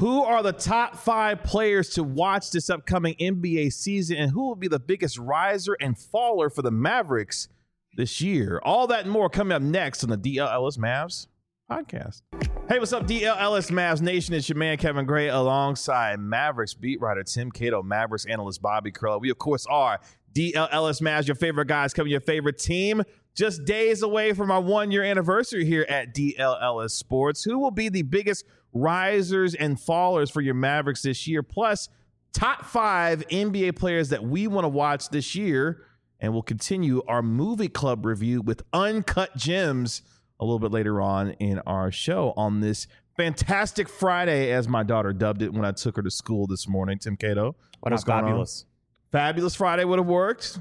Who are the top 5 players to watch this upcoming NBA season, and who will be the biggest riser and faller for the Mavericks this year? All that and more coming up next on the DL Ellis Mavs podcast. Hey, what's up, DL Ellis Mavs Nation? It's your man, Kevin Gray, alongside Mavericks beat writer Tim Cato, Mavericks analyst Bobby Curl. We, of course, are DL Ellis Mavs, your favorite guys covering your favorite team. Just days away from our 1-year anniversary here at DL Ellis Sports. Who will be the biggest risers and fallers for your Mavericks this year? Plus, top 5 NBA players that we want to watch this year. And we'll continue our movie club review with Uncut Gems a little bit later on in our show on this fantastic Friday, as my daughter dubbed it when I took her to school this morning. Tim Cato, why not fabulous? Fabulous Friday would have worked.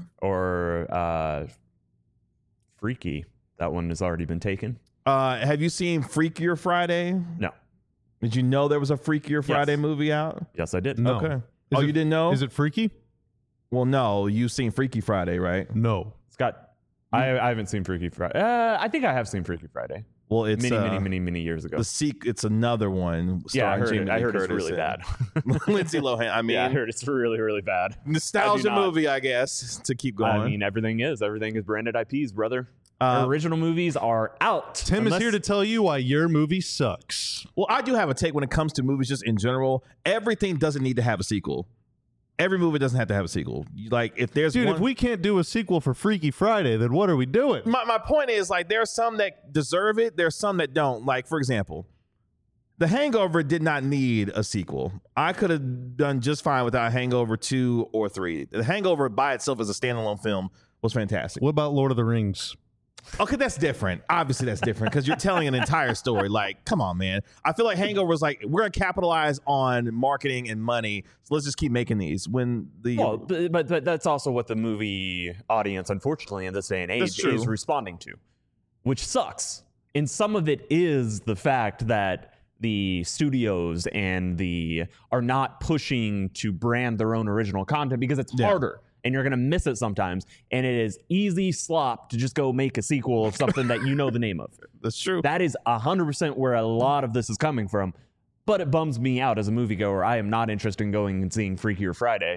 Or Freaky. That one has already been taken. Have you seen Freakier Friday? No. Did you know there was a Freakier Friday movie out? Yes, I did. No. Okay. You didn't know? Is it freaky? Well, no. You've seen Freaky Friday, right? No. Scott, I haven't seen Freaky Friday. I think I have seen Freaky Friday. Well, it's many years ago. It's another one. Yeah, I heard it's really bad. Lindsay Lohan. I mean, yeah, I heard it's really, really bad. Nostalgia movie, I guess, to keep going. I mean, everything is branded IPs, brother. Original movies are out. Tim is here to tell you why your movie sucks. Well, I do have a take when it comes to movies, just in general. Everything doesn't need to have a sequel. Every movie doesn't have to have a sequel. Like, if there's if we can't do a sequel for Freaky Friday, then what are we doing? My point is, like, there are some that deserve it. There's some that don't. Like, for example, The Hangover did not need a sequel. I could have done just fine without Hangover 2 or 3. The Hangover by itself as a standalone film was fantastic. What about Lord of the Rings? Okay, that's different. Obviously, that's different because you're telling an entire story. Like, come on, man. I feel like Hangover was like, we're going to capitalize on marketing and money, so let's just keep making these. But that's also what the movie audience, unfortunately, in this day and age, is responding to, which sucks. And some of it is the fact that the studios are not pushing to brand their own original content because it's harder. And you're going to miss it sometimes. And it is easy slop to just go make a sequel of something that you know the name of. That's true. That is 100% where a lot of this is coming from. But it bums me out as a moviegoer. I am not interested in going and seeing Freakier Friday.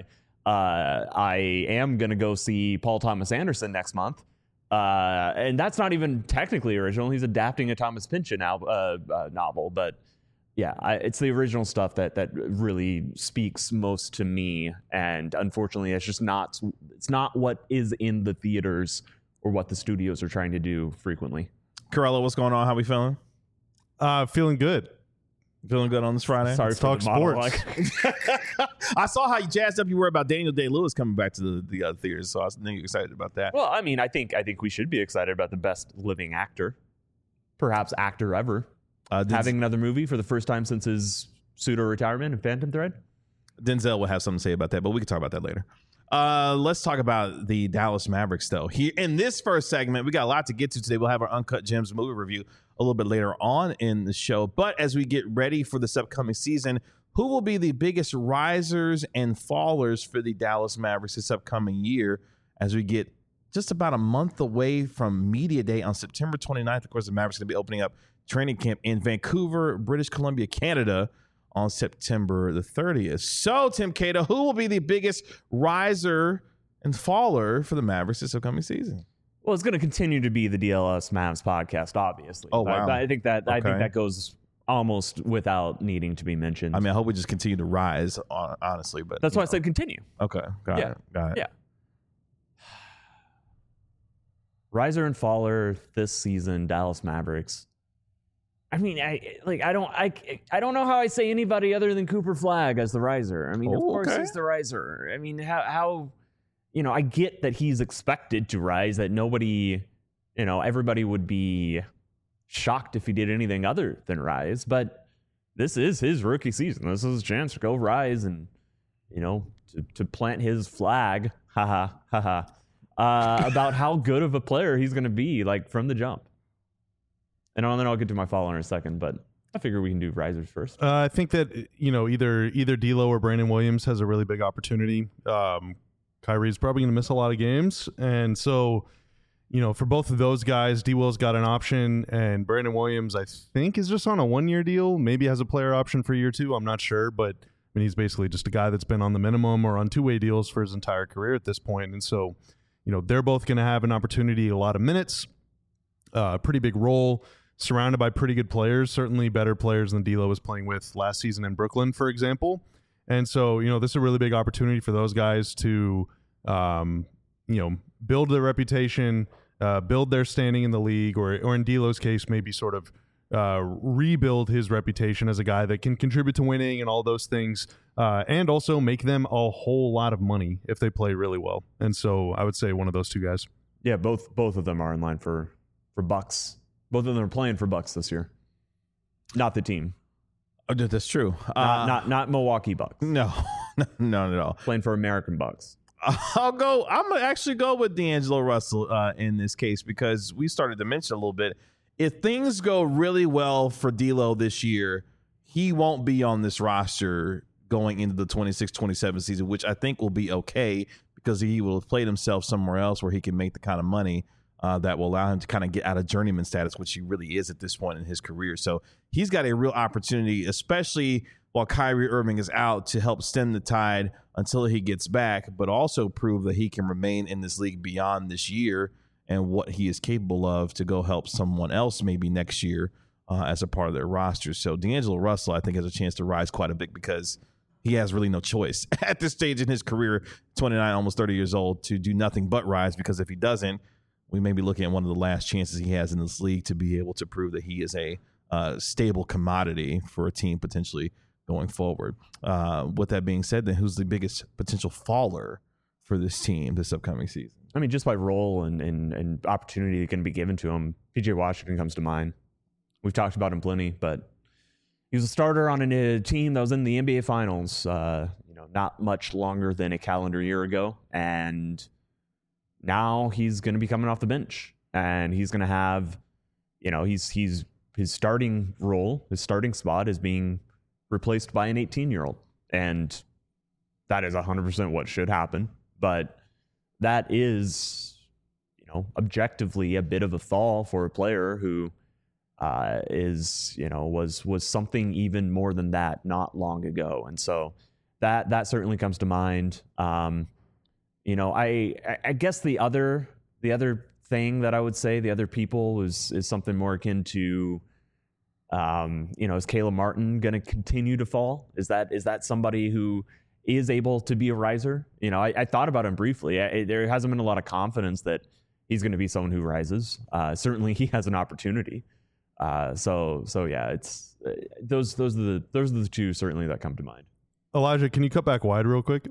I am going to go see Paul Thomas Anderson next month. And that's not even technically original. He's adapting a Thomas Pynchon novel. But yeah, it's the original stuff that really speaks most to me, and unfortunately, it's not what is in the theaters or what the studios are trying to do frequently. Corella, what's going on? How we feeling? Feeling good. Feeling good on this Friday? Sorry to talk sports. I saw how you jazzed up you were about Daniel Day-Lewis coming back to the theaters, so I was excited about that. Well, I mean, I think we should be excited about the best living actor, perhaps actor ever. Having another movie for the first time since his pseudo-retirement in Phantom Thread? Denzel will have something to say about that, but we can talk about that later. Let's talk about the Dallas Mavericks, though. Here in this first segment, we got a lot to get to today. We'll have our Uncut Gems movie review a little bit later on in the show. But as we get ready for this upcoming season, who will be the biggest risers and fallers for the Dallas Mavericks this upcoming year as we get just about a month away from Media Day on September 29th? Of course, the Mavericks are going to be opening up training camp in Vancouver, British Columbia, Canada on September the 30th. So, Tim Cato, who will be the biggest riser and faller for the Mavericks this upcoming season? Well, it's going to continue to be the DLS Mavs podcast, obviously. Oh, wow. I think that goes almost without needing to be mentioned. I mean, I hope we just continue to rise, honestly. But that's why I said continue. Okay, got it. Yeah. Riser and faller this season, Dallas Mavericks. I mean, I don't know how I say anybody other than Cooper Flagg as the riser. I mean, of course he's the riser. I mean, how I get that he's expected to rise, that nobody, everybody would be shocked if he did anything other than rise, but this is his rookie season. This is his chance to go rise and, to plant his flag, about how good of a player he's going to be, like, from the jump. And then I'll get to my follower in a second, but I figure we can do risers first. I think that, either D'Lo or Brandon Williams has a really big opportunity. Kyrie's probably going to miss a lot of games. And so, for both of those guys, D-Will's got an option, and Brandon Williams, I think, is just on a 1-year deal. Maybe has a player option for year 2. I'm not sure, but he's basically just a guy that's been on the minimum or on 2-way deals for his entire career at this point. And so, they're both going to have an opportunity, a lot of minutes, a pretty big role, surrounded by pretty good players, certainly better players than D'Lo was playing with last season in Brooklyn, for example. And so, this is a really big opportunity for those guys to, build their reputation, build their standing in the league, or in D'Lo's case, maybe sort of rebuild his reputation as a guy that can contribute to winning and all those things, and also make them a whole lot of money if they play really well. And so I would say one of those two guys. Yeah, both of them are in line for Bucks. Both of them are playing for Bucks this year. Not the team. Oh, that's true. Not Milwaukee Bucks. No, not at all. Playing for American Bucks. I'm gonna actually go with D'Angelo Russell in this case, because we started to mention a little bit. If things go really well for D'Lo this year, he won't be on this roster going into the 26-27 season, which I think will be okay, because he will have played himself somewhere else where he can make the kind of money that will allow him to kind of get out of journeyman status, which he really is at this point in his career. So he's got a real opportunity, especially while Kyrie Irving is out, to help stem the tide until he gets back, but also prove that he can remain in this league beyond this year and what he is capable of to go help someone else maybe next year as a part of their roster. So D'Angelo Russell, I think, has a chance to rise quite a bit, because he has really no choice at this stage in his career, 29, almost 30 years old, to do nothing but rise, because if he doesn't, we may be looking at one of the last chances he has in this league to be able to prove that he is a stable commodity for a team potentially going forward. With that being said, then who's the biggest potential faller for this team this upcoming season? I mean, just by role and opportunity that can be given to him, PJ Washington comes to mind. We've talked about him plenty, but he was a starter on a team that was in the NBA Finals, not much longer than a calendar year ago, and now he's going to be coming off the bench, and he's going to have, his starting role, his starting spot is being replaced by an 18-year-old, and that is 100% what should happen. But that is, objectively a bit of a fall for a player who was something even more than that not long ago, and so that certainly comes to mind. I guess the other thing that I would say, the other people is something more akin to, is Caleb Martin going to continue to fall? Is that somebody who is able to be a riser? I thought about him briefly. There hasn't been a lot of confidence that he's going to be someone who rises. Certainly he has an opportunity. So yeah, it's those are the two certainly that come to mind. Elijah, can you cut back wide real quick?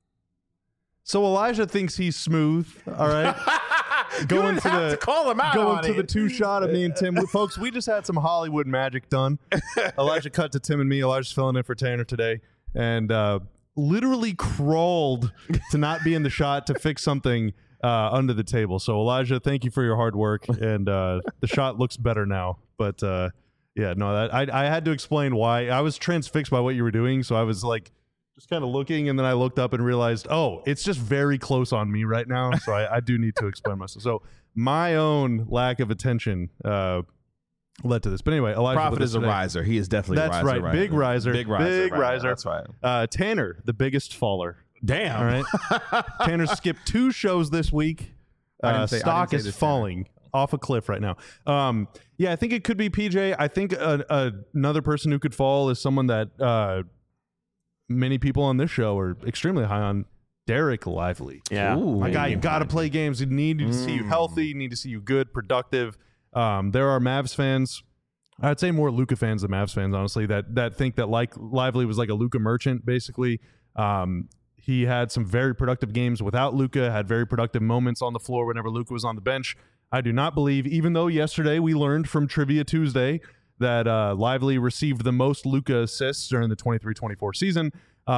So Elijah thinks he's smooth, all right? Going to call him out. Going to the 2-shot of me and Tim. Folks, we just had some Hollywood magic done. Elijah cut to Tim and me. Elijah's filling in for Tanner today, and literally crawled to not be in the shot to fix something under the table. So Elijah, thank you for your hard work, and the shot looks better now. But I had to explain why. I was transfixed by what you were doing, so I was like, just kind of looking, and then I looked up and realized, it's just very close on me right now, so I do need to explain myself. So my own lack of attention led to this. But anyway, Elijah Prophet is a riser. He is definitely a riser. That's right. Big riser. Big riser. Big riser. That's right. Tanner, the biggest faller. Damn. All right. Tanner skipped 2 shows this week. Stock is falling off a cliff right now. I think it could be PJ. I think another person who could fall is someone that many people on this show are extremely high on, Derek Lively. Yeah. Ooh, my guy, you got to play games. You need to see you healthy. You need to see you good, productive. There are Mavs fans, I'd say more Luka fans than Mavs fans, honestly, that think that Lively was like a Luka merchant, basically. He had some very productive games without Luka, had very productive moments on the floor whenever Luka was on the bench. I do not believe, even though yesterday we learned from Trivia Tuesday that Lively received the most Luka assists during the 23-24 season.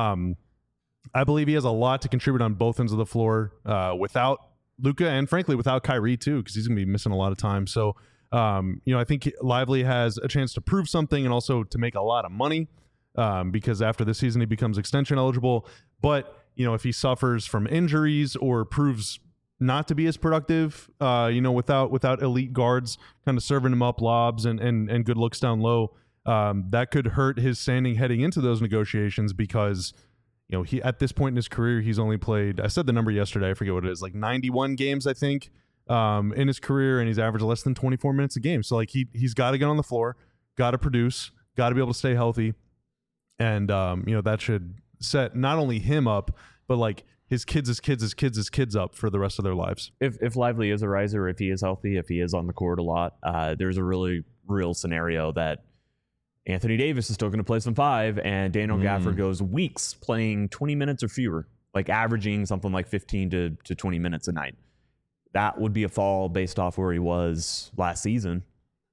I believe he has a lot to contribute on both ends of the floor without Luka, and frankly without Kyrie too, because he's going to be missing a lot of time. So, I think Lively has a chance to prove something and also to make a lot of money because after this season he becomes extension eligible. But, if he suffers from injuries or proves not to be as productive, without elite guards kind of serving him up lobs and good looks down low. That could hurt his standing heading into those negotiations because, he at this point in his career, he's only played, I said the number yesterday, I forget what it is, like 91 games, I think, in his career, and he's averaged less than 24 minutes a game. So like he's got to get on the floor, got to produce, got to be able to stay healthy. And, that should set not only him up, but like his kids' up for the rest of their lives. If Lively is a riser, if he is healthy, if he is on the court a lot, there's a really real scenario that Anthony Davis is still going to play some 5, and Daniel Gafford goes weeks playing 20 minutes or fewer, like averaging something like 15 to 20 minutes a night. That would be a fall based off where he was last season.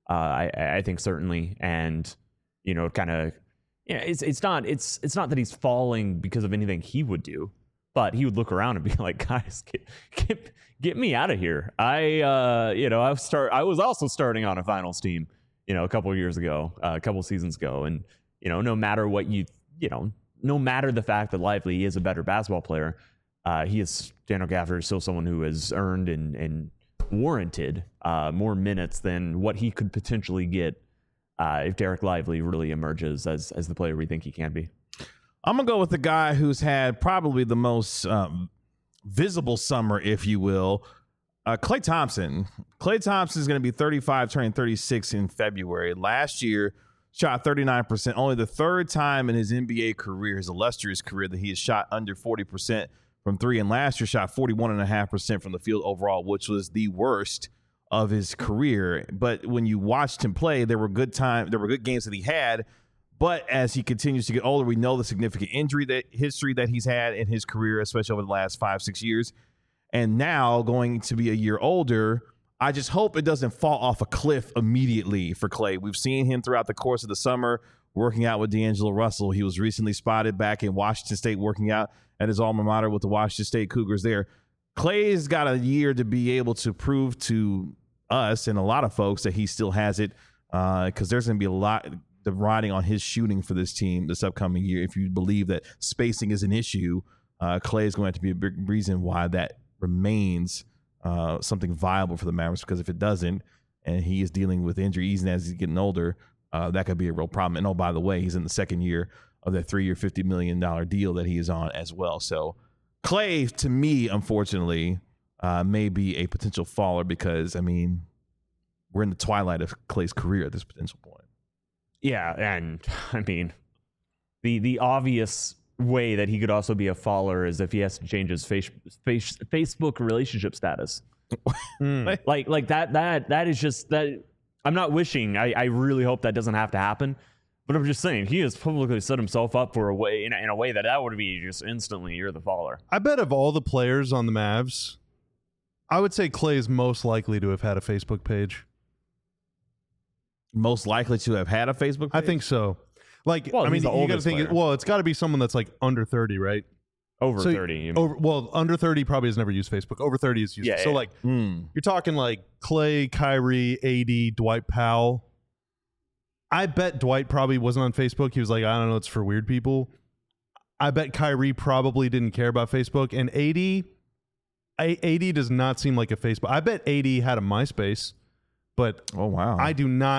I think certainly, and kind of, it's not that he's falling because of anything he would do, but he would look around and be like, guys, get me out of here. I was also starting on a finals team, a couple of years ago, a couple of seasons ago. And, no matter what no matter the fact that Lively is a better basketball player, Daniel Gafford is still someone who has earned and warranted more minutes than what he could potentially get if Derek Lively really emerges as the player we think he can be. I'm going to go with the guy who's had probably the most visible summer, if you will, Klay Thompson. Klay Thompson is going to be 35, turning 36 in February. Last year, shot 39%. Only the third time in his NBA career, his illustrious career, that he has shot under 40% from three. And last year, shot 41.5% from the field overall, which was the worst of his career. But when you watched him play, there were good games that he had. But as he continues to get older, we know the significant injury history that he's had in his career, especially over the last 5-6 years. And now going to be a year older, I just hope it doesn't fall off a cliff immediately for Klay. We've seen him throughout the course of the summer working out with D'Angelo Russell. He was recently spotted back in Washington State working out at his alma mater with the Washington State Cougars there. Klay's got a year to be able to prove to us and a lot of folks that he still has it, because there's going to be a lot riding on his shooting for this team this upcoming year. If you believe that spacing is an issue, Klay is going to be a big reason why that remains something viable for the Mavericks, because if it doesn't, and he is dealing with injuries and as he's getting older, that could be a real problem. And oh, by the way, he's in the second year of that 3-year, $50 million deal that he is on as well. So Klay, to me, unfortunately, may be a potential faller because, I mean, we're in the twilight of Klay's career at this potential point. Yeah, and I mean, the obvious way that he could also be a faller is if he has to change his Facebook relationship status. Like that is just that. I'm not wishing. I really hope that doesn't have to happen. But I'm just saying he has publicly set himself up for a way in a way that would be just instantly you're the faller. I bet of all the players on the Mavs, I would say Klay is most likely to have had a Facebook page. Most likely to have had a Facebook page? I think so. Like, well, I mean, you got to think. player. Well, it's got to be someone that's like under 30, right? Over 30. Under 30 probably has never used Facebook. Over 30 is used. Yeah, so yeah. like, you're talking like Klay, Kyrie, AD, Dwight Powell. I bet Dwight probably wasn't on Facebook. He was like, I don't know, it's for weird people. I bet Kyrie probably didn't care about Facebook. And AD does not seem like a Facebook. I bet AD had a MySpace, but oh wow, I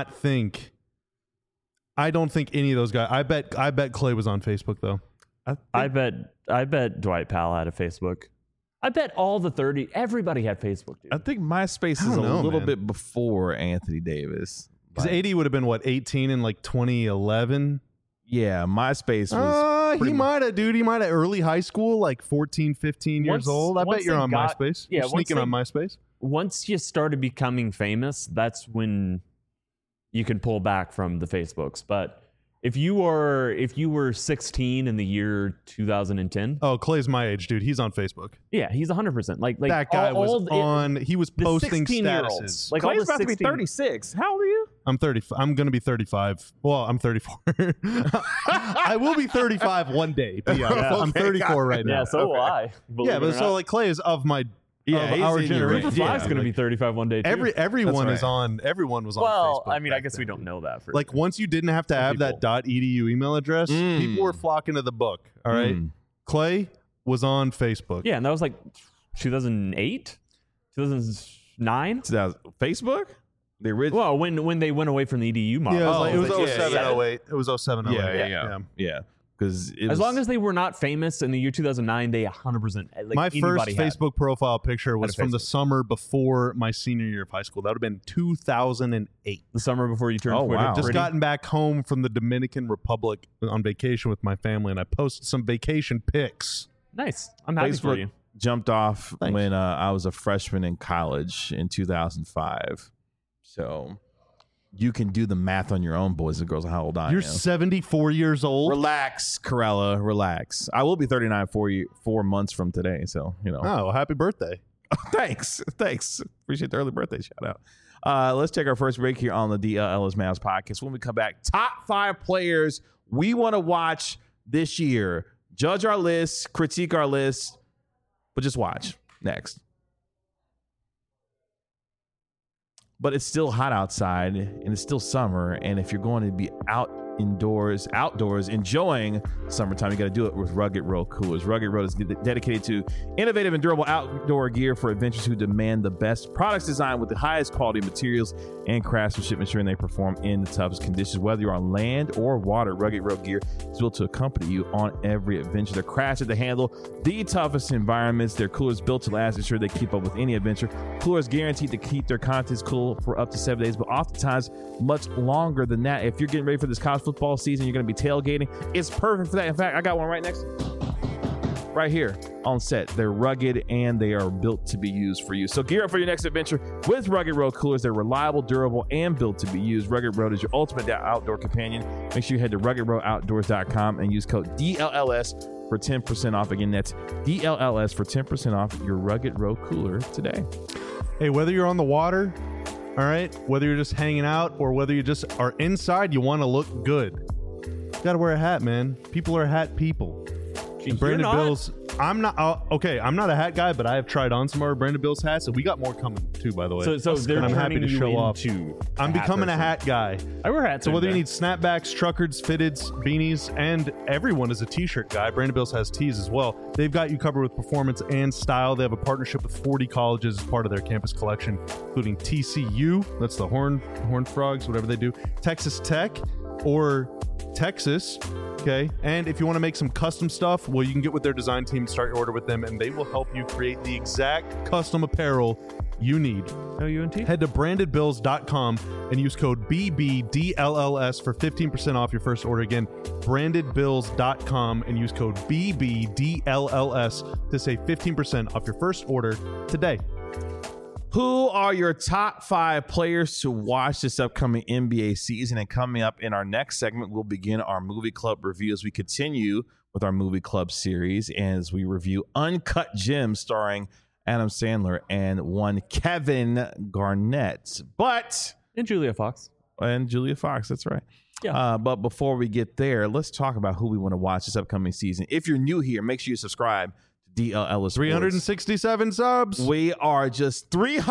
don't think any of those guys. I bet Klay was on Facebook though. I bet Dwight Powell had a Facebook. I bet all the 30. Everybody had Facebook, dude. I think MySpace is a little bit before Anthony Davis. Because AD would have been, what, 18 in like 2011? Yeah, MySpace was... he might have, dude. He might have early high school, like 14, 15 years old. I bet you're on MySpace. Yeah, you're sneaking on MySpace. Once you started becoming famous, that's when you can pull back from the Facebooks. But if you were 16 in the year 2010... Oh, Klay's my age, dude. He's on Facebook. Yeah, he's 100%. Like that guy he was posting statuses. Like Klay's about to be 36. How old are you? I'm 30. I'm going to be 35. Well, I'm 34. I will be 35 one day. But yeah, I'm 34 right now. Yeah, so will I. Yeah, but so like Klay is of my... Yeah, our generation. Cooper Fly's going to be 35 one day too. Everyone is on. Everyone was on. Well, Facebook I mean, I guess we don't know that for like once you didn't have to have that .edu email address, people were flocking to the book. All right, Klay was on Facebook. Yeah, and that was like 2008. 2009? Facebook? The original. Well, when they went away from the EDU model. Yeah, it was, Oh, it was yeah, 07, yeah. 08. It was 07, 08. Yeah. Because As long as they were not famous in the year 2009, they 100%. Like my first anybody had. Facebook profile picture was Had a from the Facebook. summer before my senior year of high school. That would have been 2008. The summer before you turned Oh, Twitter. wow. Just pretty. gotten back home from the Dominican Republic on vacation with my family, and I posted some vacation pics. Nice. I'm happy for you. jumped off Thanks. when I was a freshman in college in 2005. So you can do the math on your own, boys and girls, on how old I You're am. 74 years old. Relax, Corella. Relax. I will be 39 4 months from today. So, Oh, happy birthday. Thanks. Appreciate the early birthday shout out. Let's take our first break here on the DLLS Mavs podcast. When we come back, top 5 players we want to watch this year. Judge our list, critique our list, but just watch. Next. But it's still hot outside and it's still summer. And if you're going to be outdoors enjoying summertime, you got to do it with Rugged Road Coolers. Rugged Road is dedicated to innovative and durable outdoor gear for adventurers who demand the best products designed with the highest quality materials and craftsmanship, ensuring they perform in the toughest conditions. Whether you're on land or water, Rugged Road gear is built to accompany you on every adventure. They're crafted to handle the toughest environments. Their coolers built to last, ensure they keep up with any adventure. Coolers guaranteed to keep their contents cool for up to 7 days, but oftentimes much longer than that. If you're getting ready for this college football season, you're going to be tailgating. It's perfect for that. In fact, I got one right next to me. Right here on set. They're rugged and they are built to be used for you. So gear up for your next adventure with Rugged Road Coolers. They're reliable, durable, and built to be used. Rugged Road is your ultimate outdoor companion. Make sure you head to ruggedroadoutdoors.com and use code DLLS for 10% off. Again, that's DLLS for 10% off your Rugged Road Cooler today. Hey, whether you're on the water, all right, whether you're just hanging out or whether you just are inside, you want to look good. You got to wear a hat, man. People are hat people. And Brandon not? Bills, I'm not, okay, I'm not a hat guy, but I have tried on some of our Brandon Bills hats, and we got more coming too, by the way. So they're And I'm happy turning to you show off. into I'm becoming a hat guy. I wear hats. So whether you every need snapbacks, truckers, fitteds, beanies, and everyone is a t-shirt guy, Brandon Bills has tees as well. They've got you covered with performance and style. They have a partnership with 40 colleges as part of their campus collection, including TCU, that's the Horned Frogs, whatever they do, Texas Tech, or Texas. Okay, and if you want to make some custom stuff, well, you can get with their design team, start your order with them, and they will help you create the exact custom apparel you need. UNT? Head to brandedbills.com and use code BBDLLS for 15% off your first order. Again, brandedbills.com and use code BBDLLS to save 15% off your first order today. Who are your top 5 players to watch this upcoming NBA season? And coming up in our next segment, we'll begin our movie club review as we continue with our movie club series as we review Uncut Gems starring Adam Sandler and one Kevin Garnett. And Julia Fox. And Julia Fox, that's right. Yeah. But before we get there, let's talk about who we want to watch this upcoming season. If you're new here, make sure you subscribe to DLLS Sports. 367 subs. We are just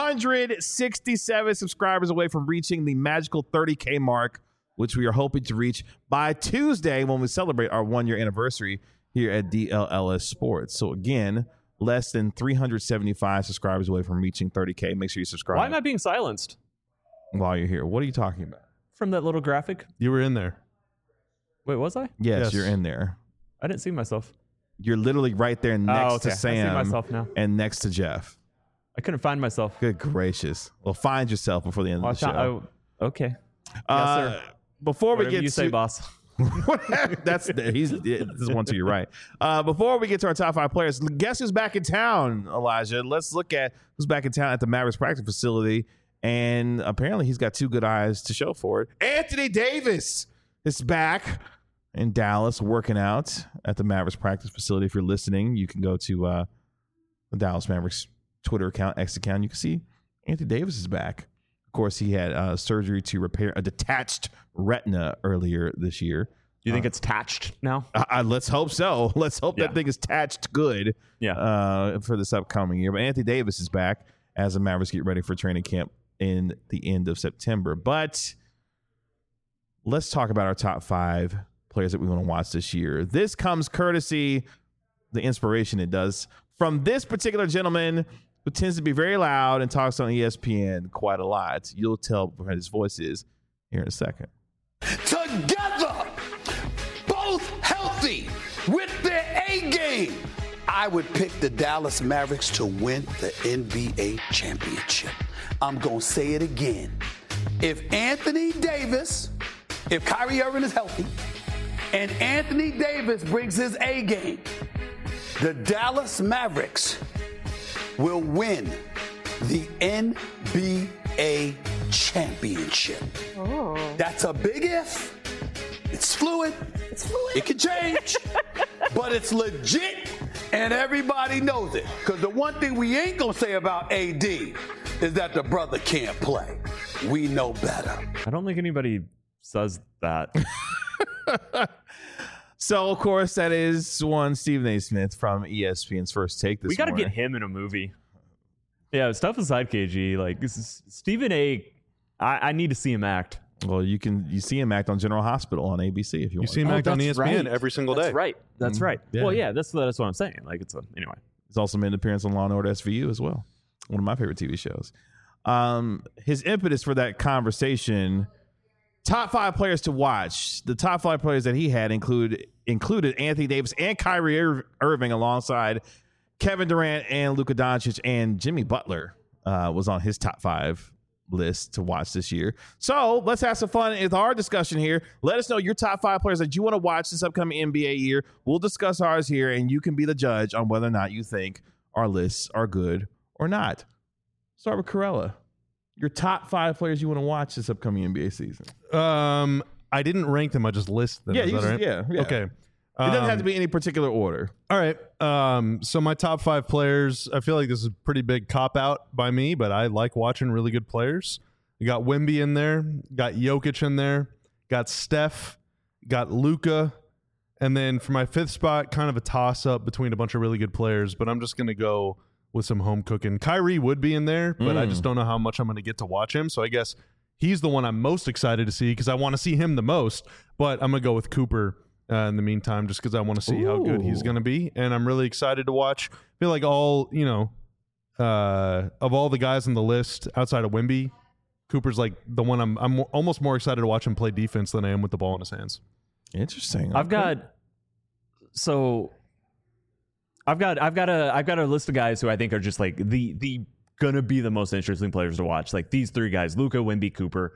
367 subscribers away from reaching the magical 30K mark, which we are hoping to reach by Tuesday when we celebrate our 1-year anniversary here at DLLS Sports. So again, less than 375 subscribers away from reaching 30K. Make sure you subscribe. Why am I being silenced while you're here? What are you talking about? from that little graphic? You were in there. Wait, was I? Yes, Yes. you're in there. I didn't see myself. You're literally right there next okay. to I see Sam myself now. and next to Jeff. I couldn't find myself. Good gracious. Well, find yourself before the end of the show. Okay. Uh, before we Whatever get you to say, boss. this is one to your right. Before we get to our top 5 players, guess who's back in town, Elijah? Let's look at who's back in town at the Mavericks practice facility. And apparently he's got 2 good eyes to show for it. Anthony Davis is back in Dallas working out at the Mavericks practice facility. If you're listening, you can go to the Dallas Mavericks Twitter account, X account. You can see Anthony Davis is back. Of course, he had surgery to repair a detached retina earlier this year. You think it's attached now? Let's hope so. Let's hope that thing is attached good for this upcoming year. But Anthony Davis is back as the Mavericks get ready for training camp in the end of September. But let's talk about our top 5 players that we want to watch this year. This comes courtesy, the inspiration it does, from this particular gentleman who who tends to be very loud and talks on ESPN quite a lot. You'll tell what his voice is here in a second. Together, both healthy, with their A game, I would pick the Dallas Mavericks to win the NBA championship. I'm going to say it again. If Kyrie Irving is healthy, and Anthony Davis brings his A game, the Dallas Mavericks will win the NBA championship. Oh. That's a big if. It's fluid. It can change. But it's legit, and everybody knows it. Because the one thing we ain't going to say about AD is that the brother can't play. We know better. I don't think anybody says that. So, of course, that is one Stephen A. Smith from ESPN's First Take this We got to morning. get him in a movie. Yeah, stuff aside, KG. Like, this is Stephen A. I need to see him act. Well, you see him act on General Hospital on ABC if you want. You see him act on ESPN right. every single day. That's right. That's right. Yeah. Well, yeah, that's what I'm saying. Like, anyway. He's also made an appearance on Law & Order SVU as well. One of my favorite TV shows. His impetus for that conversation, top 5 players to watch. The top 5 players that he had included Anthony Davis and Kyrie Irving alongside Kevin Durant and Luka Doncic, and Jimmy Butler was on his top 5 list to watch this year. So let's have some fun with our discussion here. Let us know your top 5 players that you want to watch this upcoming NBA year. We'll discuss ours here, and you can be the judge on whether or not you think our lists are good or not. Start with Corella. Your top 5 players you want to watch this upcoming NBA season. I didn't rank them. I just list them. Yeah, Is that right? yeah. Okay. It doesn't have to be any particular order. All right. So my top 5 players, I feel like this is a pretty big cop-out by me, but I like watching really good players. You got Wemby in there, got Jokic in there, got Steph, got Luka, and then for my 5th spot, kind of a toss-up between a bunch of really good players, but I'm just going to go with some home cooking. Kyrie would be in there, but I just don't know how much I'm going to get to watch him, so I guess he's the one I'm most excited to see because I want to see him the most, but I'm going to go with Cooper in the meantime, just because I want to see how good he's going to be, and I'm really excited to watch. I feel like of all the guys on the list outside of Wemby, Cooper's like the one I'm almost more excited to watch him play defense than I am with the ball in his hands. Interesting. I've got a list of guys who I think are just like the gonna be the most interesting players to watch. Like these 3 guys: Luka, Wemby, Cooper.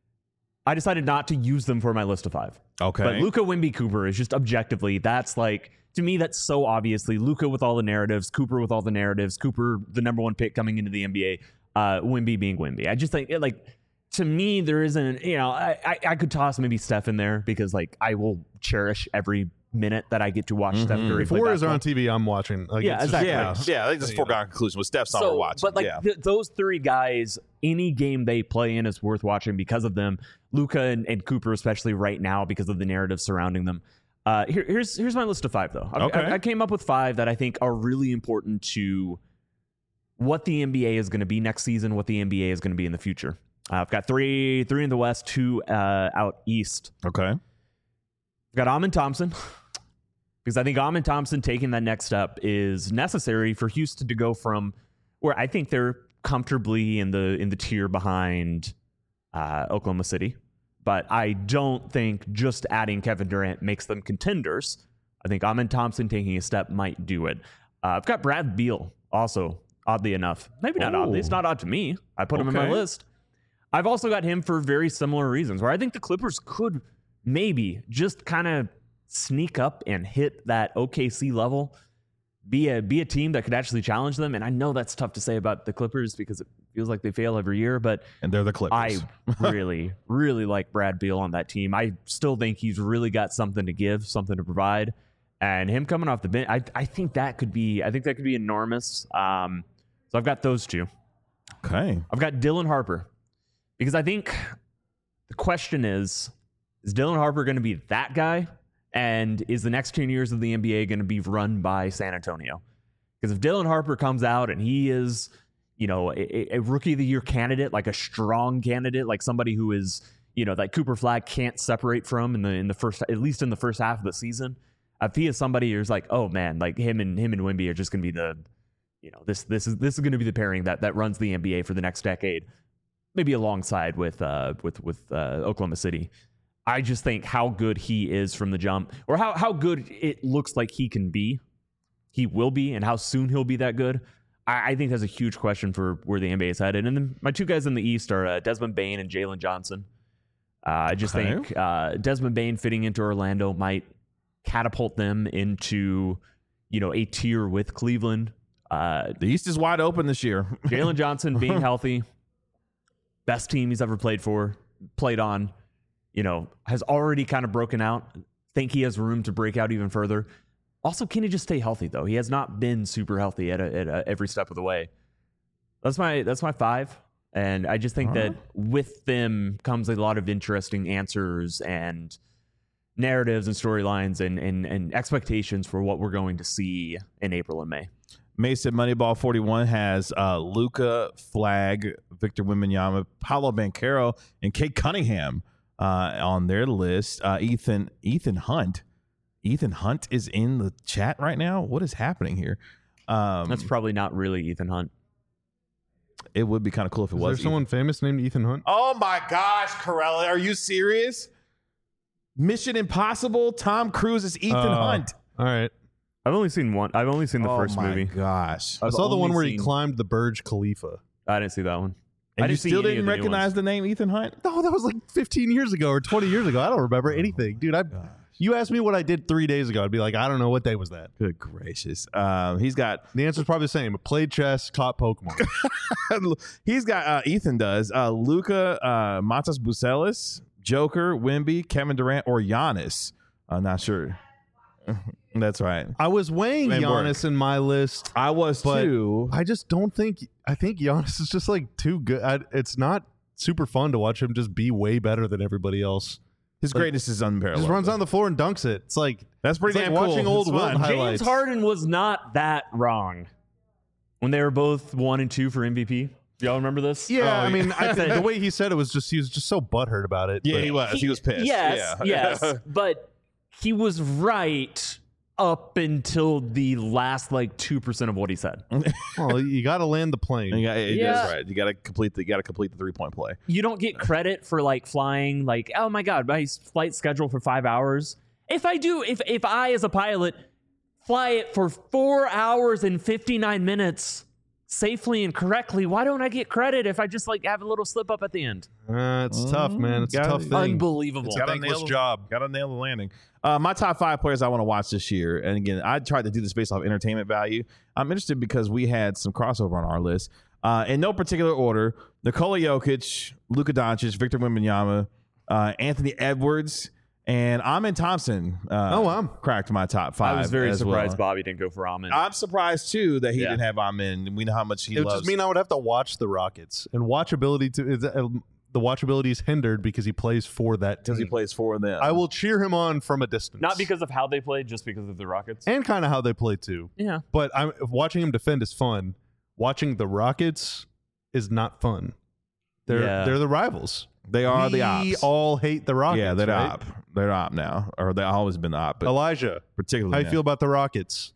I decided not to use them for my list of 5. Okay. But Luka, Wemby, Cooper is just objectively, that's like, to me, that's so obviously Luka with all the narratives, Cooper with all the narratives, Cooper, the number 1 pick coming into the NBA, Wemby being Wemby. I just think, like, to me, there isn't, I could toss maybe Steph in there because, like, I will cherish every minute that I get to watch Steph Curry If play Warriors are basketball. on TV, I'm watching. Like, Yeah, it's just- exactly. Yeah, I think that's a foregone conclusion. With Steph's on, we're watching. But like yeah. those 3 guys, any game they play in is worth watching because of them. Luka and Cooper, especially right now, because of the narrative surrounding them. Here's my list of 5, though. I came up with 5 that I think are really important to what the NBA is going to be next season, what the NBA is going to be in the future. I've got 3 in the West, 2 out East. Okay. I've got Amin Thompson. Because I think Amin Thompson taking that next step is necessary for Houston to go from where I think they're comfortably in the tier behind Oklahoma City. But I don't think just adding Kevin Durant makes them contenders. I think Amin Thompson taking a step might do it. I've got Brad Beal also, oddly enough. Maybe not oddly. It's not odd to me. I put him in my list. I've also got him for very similar reasons, where I think the Clippers could maybe just kind of sneak up and hit that OKC level, be a team that could actually challenge them. And I know that's tough to say about the Clippers because it feels like they fail every year, but And they're the Clippers. I really, really like Brad Beal on that team. I still think he's really got something to give, something to provide. And him coming off the bench, I think that could be enormous. So I've got those 2. Okay. I've got Dylan Harper because I think the question is Dylan Harper going to be that guy? And is the next 10 years of the NBA going to be run by San Antonio? Because if Dylan Harper comes out and he is, a rookie of the year candidate, like a strong candidate, like somebody who is, that Cooper Flag can't separate from in the first, at least in the first half of the season. If he is somebody who's like, oh man, like him and Wemby are just going to be this is going to be the pairing that runs the NBA for the next decade, maybe alongside with Oklahoma City. I just think how good he is from the jump, or how good it looks like he will be, and how soon he'll be that good. I think that's a huge question for where the NBA is headed. And then my two guys in the East are Desmond Bane and Jalen Johnson. I just think Desmond Bane fitting into Orlando might catapult them into, a tier with Cleveland. The East is wide open this year. Jalen Johnson being healthy, best team he's ever played on, has already kind of broken out. Think he has room to break out even further. Also, can he just stay healthy, though? He has not been super healthy at every step of the way. That's my 5. And I just think that with them comes a lot of interesting answers and narratives and storylines and expectations for what we're going to see in April and May. Mason Moneyball 41 has Luka, Flag, Victor Wembanyama, Paolo Banchero, and Kate Cunningham on their list. Ethan Hunt. Ethan Hunt is in the chat right now. What is happening here? That's probably not really Ethan Hunt. It would be kind of cool if it was. Is there someone famous named Ethan Hunt? Oh my gosh, Corella, are you serious? Mission Impossible, Tom Cruise is Ethan Hunt. All right. I've only seen one. I've only seen the first movie. Oh my gosh. I saw the one where he climbed the Burj Khalifa. I didn't see that one. And you still didn't recognize the name Ethan Hunt? No, that was like 15 years ago or 20 years ago. I don't remember anything. Dude, you asked me what I did 3 days ago, I'd be like, I don't know. What day was that? Good gracious. He's got... The answer's probably the same. Played chess, caught Pokemon. He's got... Ethan does. Luka, Matas Bucelis, Joker, Wemby, Kevin Durant, or Giannis. I'm not sure. That's right. I was weighing Giannis in my list. I was too. I just don't think... I think Giannis is just like too good. It's not super fun to watch him just be way better than everybody else. His greatness is unparalleled. Just runs on the floor and dunks it. It's like that's pretty damn like cool. Watching old Wilt highlights. James Harden was not that wrong when they were both 1 and 2 for MVP. Do y'all remember this? Yeah, I mean, I think the way he said it was just he was just so butthurt about it. Yeah, he was. He was pissed. Yes, but he was right up until the last 2% of what he said. Well, you got to land the plane. That's right. You got to complete the 3-point play. You don't get credit for flying oh my god, my flight scheduled for 5 hours. If I as a pilot fly it for 4 hours and 59 minutes safely and correctly, why don't I get credit if I just have a little slip up at the end? It's tough, man. It's a tough thing. Unbelievable. It's a thankless job. Got to nail the landing. My top 5 players I want to watch this year, and again, I tried to do this based off entertainment value. I'm interested because we had some crossover on our list. In no particular order: Nikola Jokic, Luka Doncic, Victor Wembanyama, Anthony Edwards, and Amen Thompson. Cracked my top 5. I was very surprised Bobby didn't go for Amen. I'm surprised too that he didn't have Amen. We know how much he loves. It would just mean I would have to watch the Rockets, and the watchability is hindered because he plays for that team. Because he plays for them. I will cheer him on from a distance. Not because of how they play, just because of the Rockets. And kind of how they play too. Yeah. But watching him defend is fun. Watching the Rockets is not fun. They're the rivals. They are the ops. We all hate the Rockets. Yeah, they're right? the op. They're the op now. Or they've always been the op. But Elijah, particularly how you feel about the Rockets?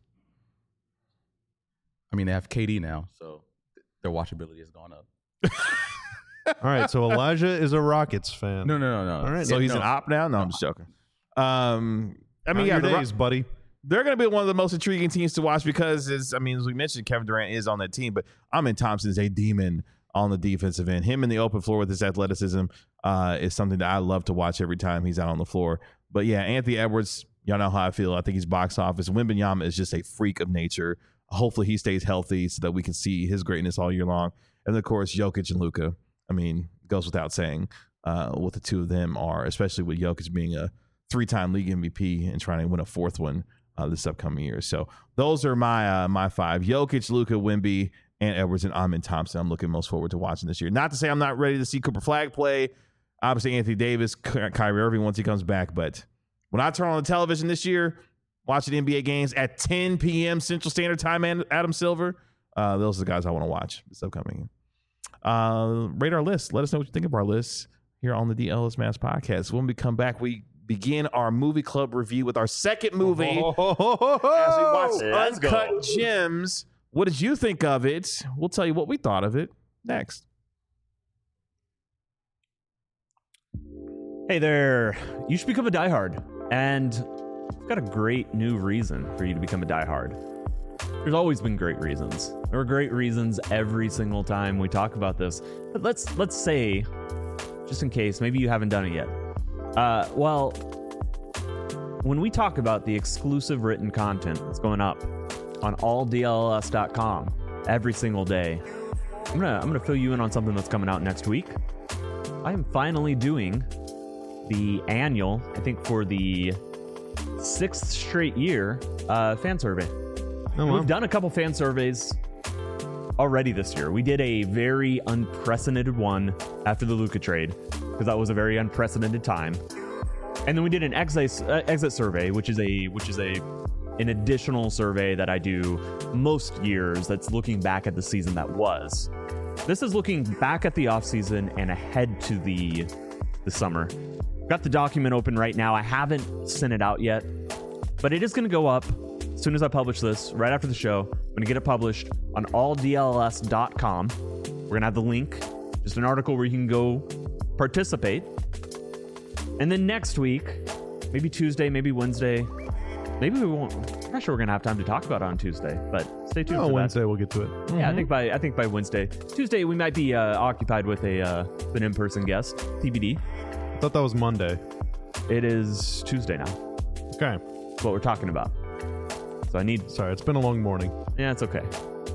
I mean, they have KD now, so their watchability has gone up. All right, so Elijah is a Rockets fan. No. All right, so he's an op now? No, I'm just joking. I mean, your days, buddy. They're going to be one of the most intriguing teams to watch because, as we mentioned, Kevin Durant is on that team, but Amen Thompson is a demon on the defensive end. Him in the open floor with his athleticism is something that I love to watch every time he's out on the floor. But yeah, Anthony Edwards, y'all know how I feel. I think he's box office. Wembanyama is just a freak of nature. Hopefully he stays healthy so that we can see his greatness all year long. And of course, Jokic and Luka. I mean, goes without saying what the two of them are, especially with Jokic being a 3-time league MVP and trying to win a 4th one this upcoming year. So those are my 5: Jokic, Luka, Wemby, and Edwards, and Amen Thompson. I'm looking most forward to watching this year. Not to say I'm not ready to see Cooper Flag play. Obviously, Anthony Davis, Kyrie Irving once he comes back. But when I turn on the television this year, watching NBA games at 10 p.m. Central Standard Time, and Adam Silver, those are the guys I want to watch this upcoming year. Rate our list. Let us know what you think of our list here on the DLS Mass Podcast. When we come back, we begin our movie club review with our second movie as we watch Uncut Gems What did you think of it? We'll tell you what we thought of it next. Hey there. You should become a diehard. And I've got a great new reason for you to become a diehard. There's always been great reasons. There are great reasons every single time we talk about this. But let's say, just in case, maybe you haven't done it yet. Well, when we talk about the exclusive written content that's going up on alldls.com every single day, I'm gonna fill you in on something that's coming out next week. I am finally doing the annual, I think for the 6th straight year, fan survey. Oh, wow. We've done a couple fan surveys already this year. We did a very unprecedented one after the Luka trade, because that was a very unprecedented time. And then we did an exit survey, which is an additional survey that I do most years that's looking back at the season that was. This is looking back at the offseason and ahead to the summer. Got the document open right now. I haven't sent it out yet, but it is going to go up as soon as I publish this, right after the show. I'm going to get it published on alldls.com. We're going to have the link, just an article where you can go participate. And then next week, maybe Tuesday, maybe Wednesday, maybe we won't. I'm not sure we're going to have time to talk about it on Tuesday, but stay tuned for Wednesday that. we'll get to it. Yeah, I think by Wednesday. Tuesday we might be occupied with an in-person guest, TBD. I thought that was Monday. It is Tuesday now. Okay. That's what we're talking about. So I need... Sorry, it's been a long morning. Yeah, it's okay.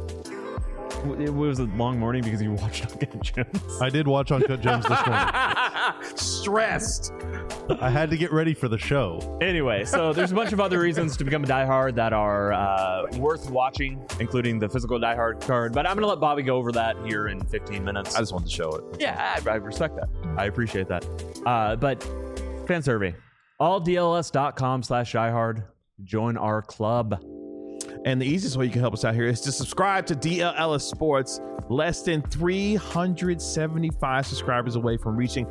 It was a long morning because you watched Uncut Gems. I did watch Uncut Gems this morning. Stressed. I had to get ready for the show. Anyway, so there's a bunch of other reasons to become a diehard that are worth watching, including the physical diehard card. But I'm going to let Bobby go over that here in 15 minutes. I just wanted to show it. Yeah, I respect that. I appreciate that. But fan survey, alldls.com/diehard. Join our club. And the easiest way you can help us out here is to subscribe to DLLS Sports. Less than 375 subscribers away from reaching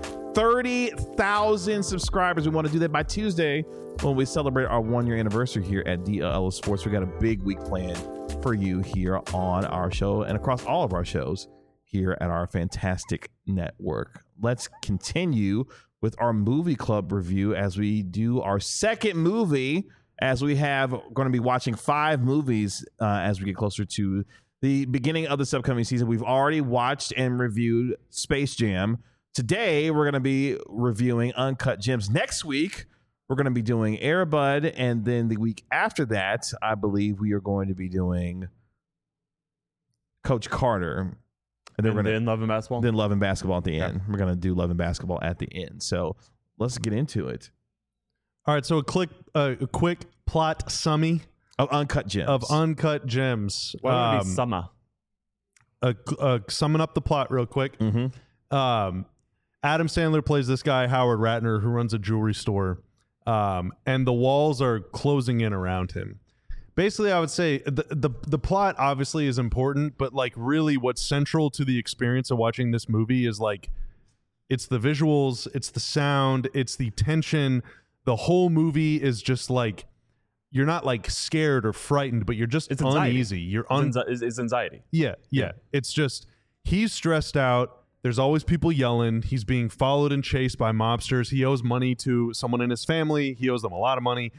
30,000 subscribers. We want to do that by Tuesday when we celebrate our 1-year anniversary here at DLLS Sports. We got a big week planned for you here on our show and across all of our shows here at our fantastic network. Let's continue with our movie club review as we do our second movie, as we have going to be watching 5 movies as we get closer to the beginning of this upcoming season. We've already watched and reviewed Space Jam. Today, we're going to be reviewing Uncut Gems. Next week, we're going to be doing Air Bud. And then the week after that, I believe we are going to be doing Coach Carter. And then Love and Basketball? Then Love and Basketball at the end. We're going to do Love and Basketball at the end. So let's get into it. All right, so a quick plot summary of Uncut Gems. Why would it be summer? Summing up the plot real quick. Adam Sandler plays this guy, Howard Ratner, who runs a jewelry store, and the walls are closing in around him. Basically, I would say the plot obviously is important, but like really what's central to the experience of watching this movie is like it's the visuals, it's the sound, it's the tension. The whole movie is just like you're not like scared or frightened, but you're just uneasy. You're it's anxiety. Yeah. It's just he's stressed out. There's always people yelling. He's being followed and chased by mobsters. He owes money to someone in his family. He owes them a lot of money.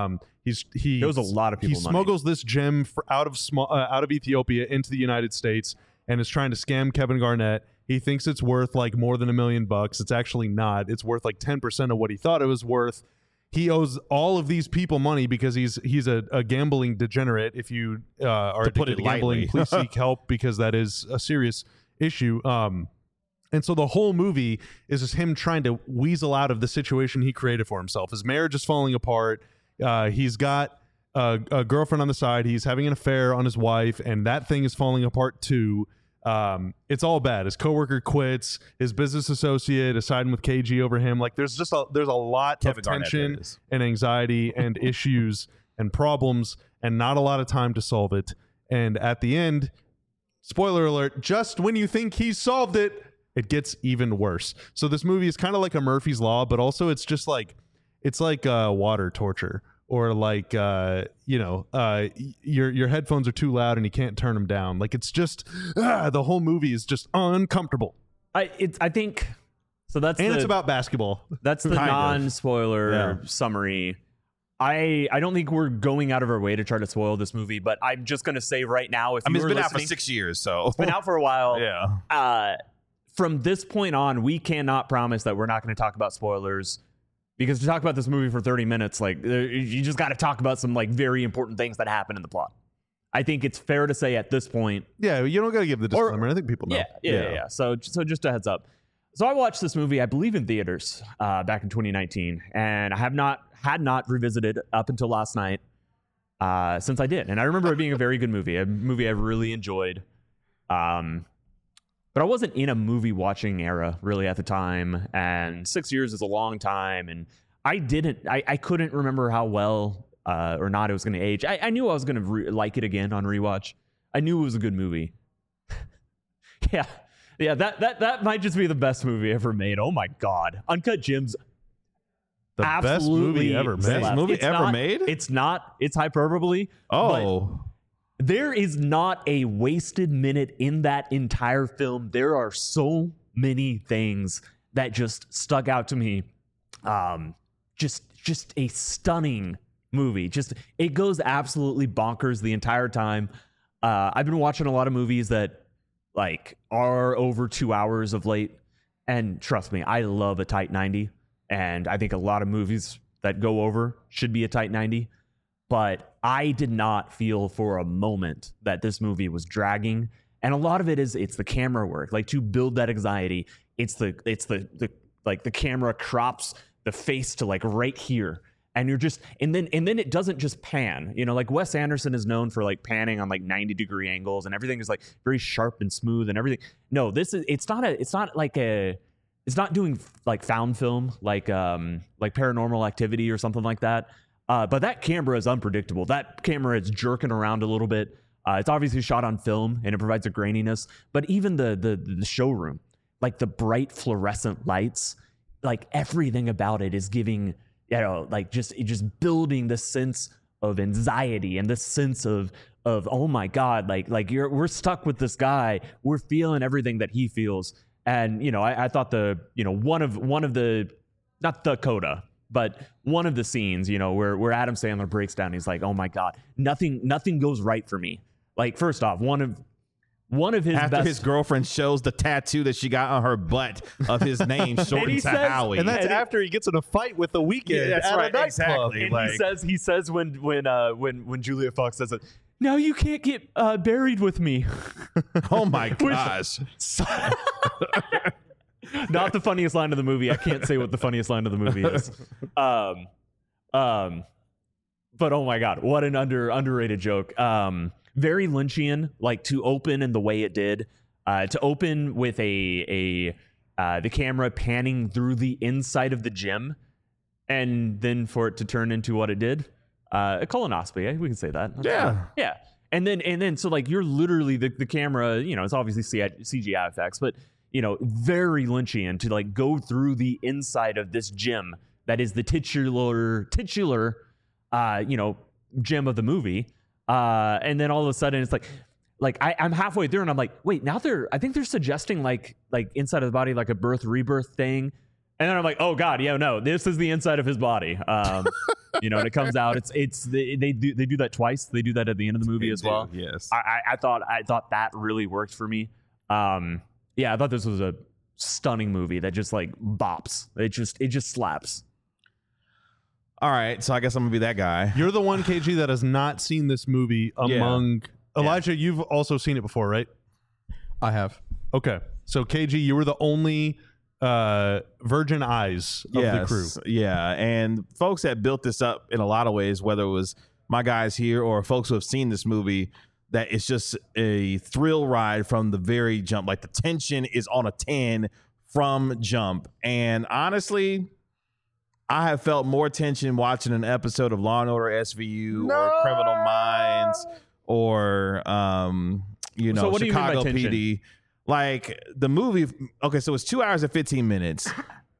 He owes a lot of people He money. smuggles this gem out of Ethiopia into the United States and is trying to scam Kevin Garnett. He thinks it's worth like more than $1 million. It's actually not. It's worth like 10% of what he thought it was worth. He owes all of these people money because he's a gambling degenerate. If you are addicted to gambling, please seek help because that is a serious issue. And so the whole movie is just him trying to weasel out of the situation he created for himself. His marriage is falling apart. He's got a girlfriend on the side. He's having an affair on his wife, and that thing is falling apart too. It's all bad. His coworker quits. His business associate is siding with KG over him. Like there's a lot of tension and anxiety and issues and problems, and not a lot of time to solve it. And at the end, spoiler alert, just when you think he's solved it, it gets even worse. So this movie is kind of like a Murphy's Law, but also it's just like it's like water torture, or like your headphones are too loud and you can't turn them down. Like it's just the whole movie is just uncomfortable. I think so. It's about basketball. That's the non-spoiler summary. I don't think we're going out of our way to try to spoil this movie, but I'm just going to say right now, if it's been out for 6 years, so it's been out for a while. Yeah. From this point on, we cannot promise that we're not going to talk about spoilers, because to talk about this movie for 30 minutes, like you just got to talk about some like very important things that happen in the plot. I think it's fair to say at this point. Yeah, you don't got to give the disclaimer. I think people know. Yeah. So just a heads up. So I watched this movie, I believe, in theaters back in 2019, and I had not revisited up until last night since I did. And I remember it being a very good movie, a movie I really enjoyed. But I wasn't in a movie watching era really at the time, and 6 years is a long time, and I couldn't remember how well or not it was going to age. I knew I was going to like it again on rewatch. I knew it was a good movie. Yeah, that might just be the best movie ever made. Oh my God. Uncut Gems. The best movie ever made. Best movie ever made? It's not. It's hyperbole. Oh. There is not a wasted minute in that entire film. There are so many things that just stuck out to me. Just a stunning movie. Just it goes absolutely bonkers the entire time. I've been watching a lot of movies that like are over 2 hours of late, and trust me, I love a tight 90, and I think a lot of movies that go over should be a tight 90, but I did not feel for a moment that this movie was dragging. And a lot of it's the camera work, like to build that anxiety. It's the like the camera crops the face to like right here. And you're just, and then it doesn't just pan, like Wes Anderson is known for like panning on like 90-degree angles, and everything is like very sharp and smooth and everything. No, it's not doing like found film, like Paranormal Activity or something like that. But that camera is unpredictable. That camera is jerking around a little bit. It's obviously shot on film and it provides a graininess, but even the showroom, like the bright fluorescent lights, like everything about it is giving, like just building this sense of anxiety and this sense of oh my God, like we're stuck with this guy. We're feeling everything that he feels. And I thought one of the, not the coda, but one of the scenes, where Adam Sandler breaks down, he's like, oh my God, nothing goes right for me. Like, first off, one of his after best, his girlfriend shows the tattoo that she got on her butt of his name shortened to Howie, and that's after he gets in a fight with The Weeknd. Yeah, that's right, exactly. And like, he says when Julia Fox says it, now you can't get buried with me. Oh my gosh. Not the funniest line of the movie. I can't say what the funniest line of the movie is. But oh my God, what an underrated joke. Very Lynchian, like to open in the way it did, to open with the camera panning through the inside of the gym, and then for it to turn into what it did, a colonoscopy. We can say that. Yeah. And then so like you're literally the camera. It's obviously CGI effects, but very Lynchian to like go through the inside of this gym that is the titular gym of the movie. And then all of a sudden it's like I'm halfway through and I'm like, wait, now I think they're suggesting like inside of the body, like a birth rebirth thing. And then I'm like, oh God, yeah, no, this is the inside of his body. And it comes out. They do that twice. They do that at the end of the movie as well. Yes. I thought that really worked for me. I thought this was a stunning movie that just like bops. It just slaps. All right, so I guess I'm gonna be that guy. You're the one, KG, that has not seen this movie among Elijah. You've also seen it before, right? I have. Okay, so KG, you were the only virgin eyes of the crew. Yeah, and folks that built this up in a lot of ways, whether it was my guys here or folks who have seen this movie, that it's just a thrill ride from the very jump. Like the tension is on a 10 from jump, and honestly, I have felt more tension watching an episode of Law & Order SVU or Criminal Minds or, So what do you mean by Chicago tension? PD. Like the movie, okay, so it's 2 hours and 15 minutes.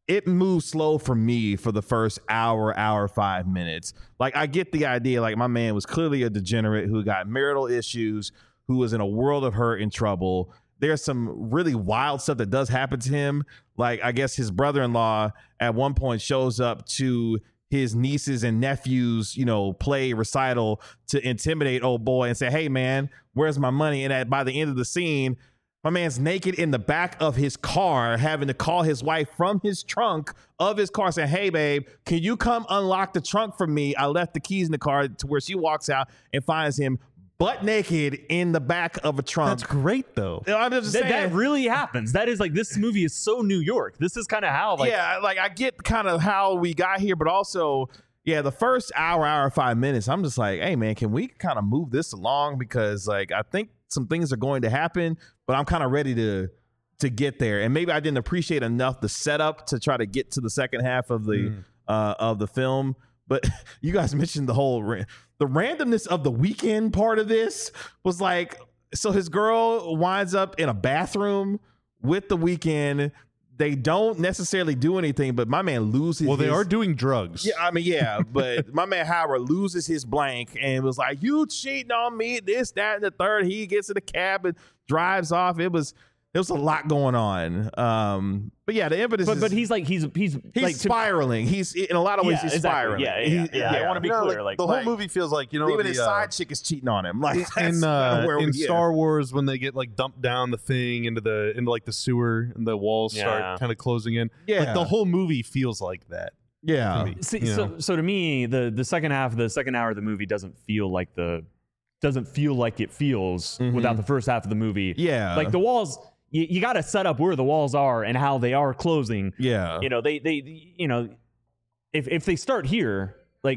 it moves slow for me for the first hour 5 minutes. Like, I get the idea. Like, my man was clearly a degenerate who got marital issues, who was in a world of hurt and trouble. There's some really wild stuff that does happen to him. Like, I guess his brother-in-law at one point shows up to his nieces and nephews, play recital to intimidate old boy and say, hey, man, where's my money? And by the end of the scene, my man's naked in the back of his car, having to call his wife from his trunk of his car saying, hey, babe, can you come unlock the trunk for me? I left the keys in the car, to where she walks out and finds him butt naked in the back of a trunk. That's great, though. I'm just saying. That really happens. That is like, this movie is so New York. This is kind of how, like, yeah, like I get kind of how we got here, but also, yeah, the first hour 5 minutes, I'm just like, hey, man, can we kind of move this along? Because, like, I think some things are going to happen, but I'm kind of ready to get there. And maybe I didn't appreciate enough the setup to try to get to the second half of the film. But you guys mentioned the randomness of the weekend part of this was like, so his girl winds up in a bathroom with the weekend. They don't necessarily do anything, but my man loses. Well, they are doing drugs. Yeah, I mean, yeah, but my man Howard loses his blank and was like, "You cheating on me? This, that, and the third." He gets in the cab and drives off. It was a lot going on. But yeah, the impetus. But he's like spiraling. He's in a lot of ways he's spiraling. Yeah. I want to be clear. Like the whole movie feels like even his side chick is cheating on him. Like in Star Wars when they get like dumped down the thing into like the sewer and the walls start kind of closing in. Yeah, like the whole movie feels like that. Yeah. So to me, the second half, the second hour of the movie doesn't feel like it feels without the first half of the movie. Yeah, like the walls. You got to set up where the walls are and how they are closing. Yeah. If they start here, like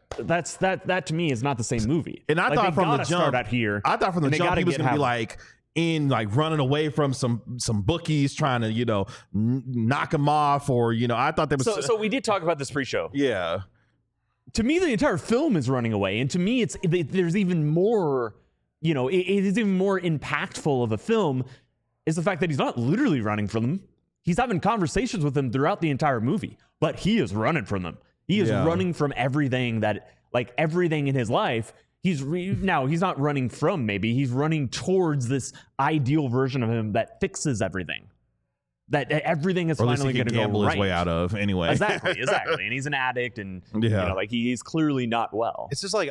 that to me is not the same movie. And I thought from the jump, start out here. I thought from the jump he was going to be like running away from some bookies trying to, knock him off, or, I thought there was. So we did talk about this pre-show. Yeah. To me, the entire film is running away. And to me, there's even more, it is even more impactful of a film is the fact that he's not literally running from them. He's having conversations with them throughout the entire movie, but he is running from them. He is running from everything everything in his life. He's not running from, maybe he's running towards this ideal version of him that fixes everything. That everything is finally going to go right. His way out of anyway. Exactly. And he's an addict, and he's clearly not well. It's just like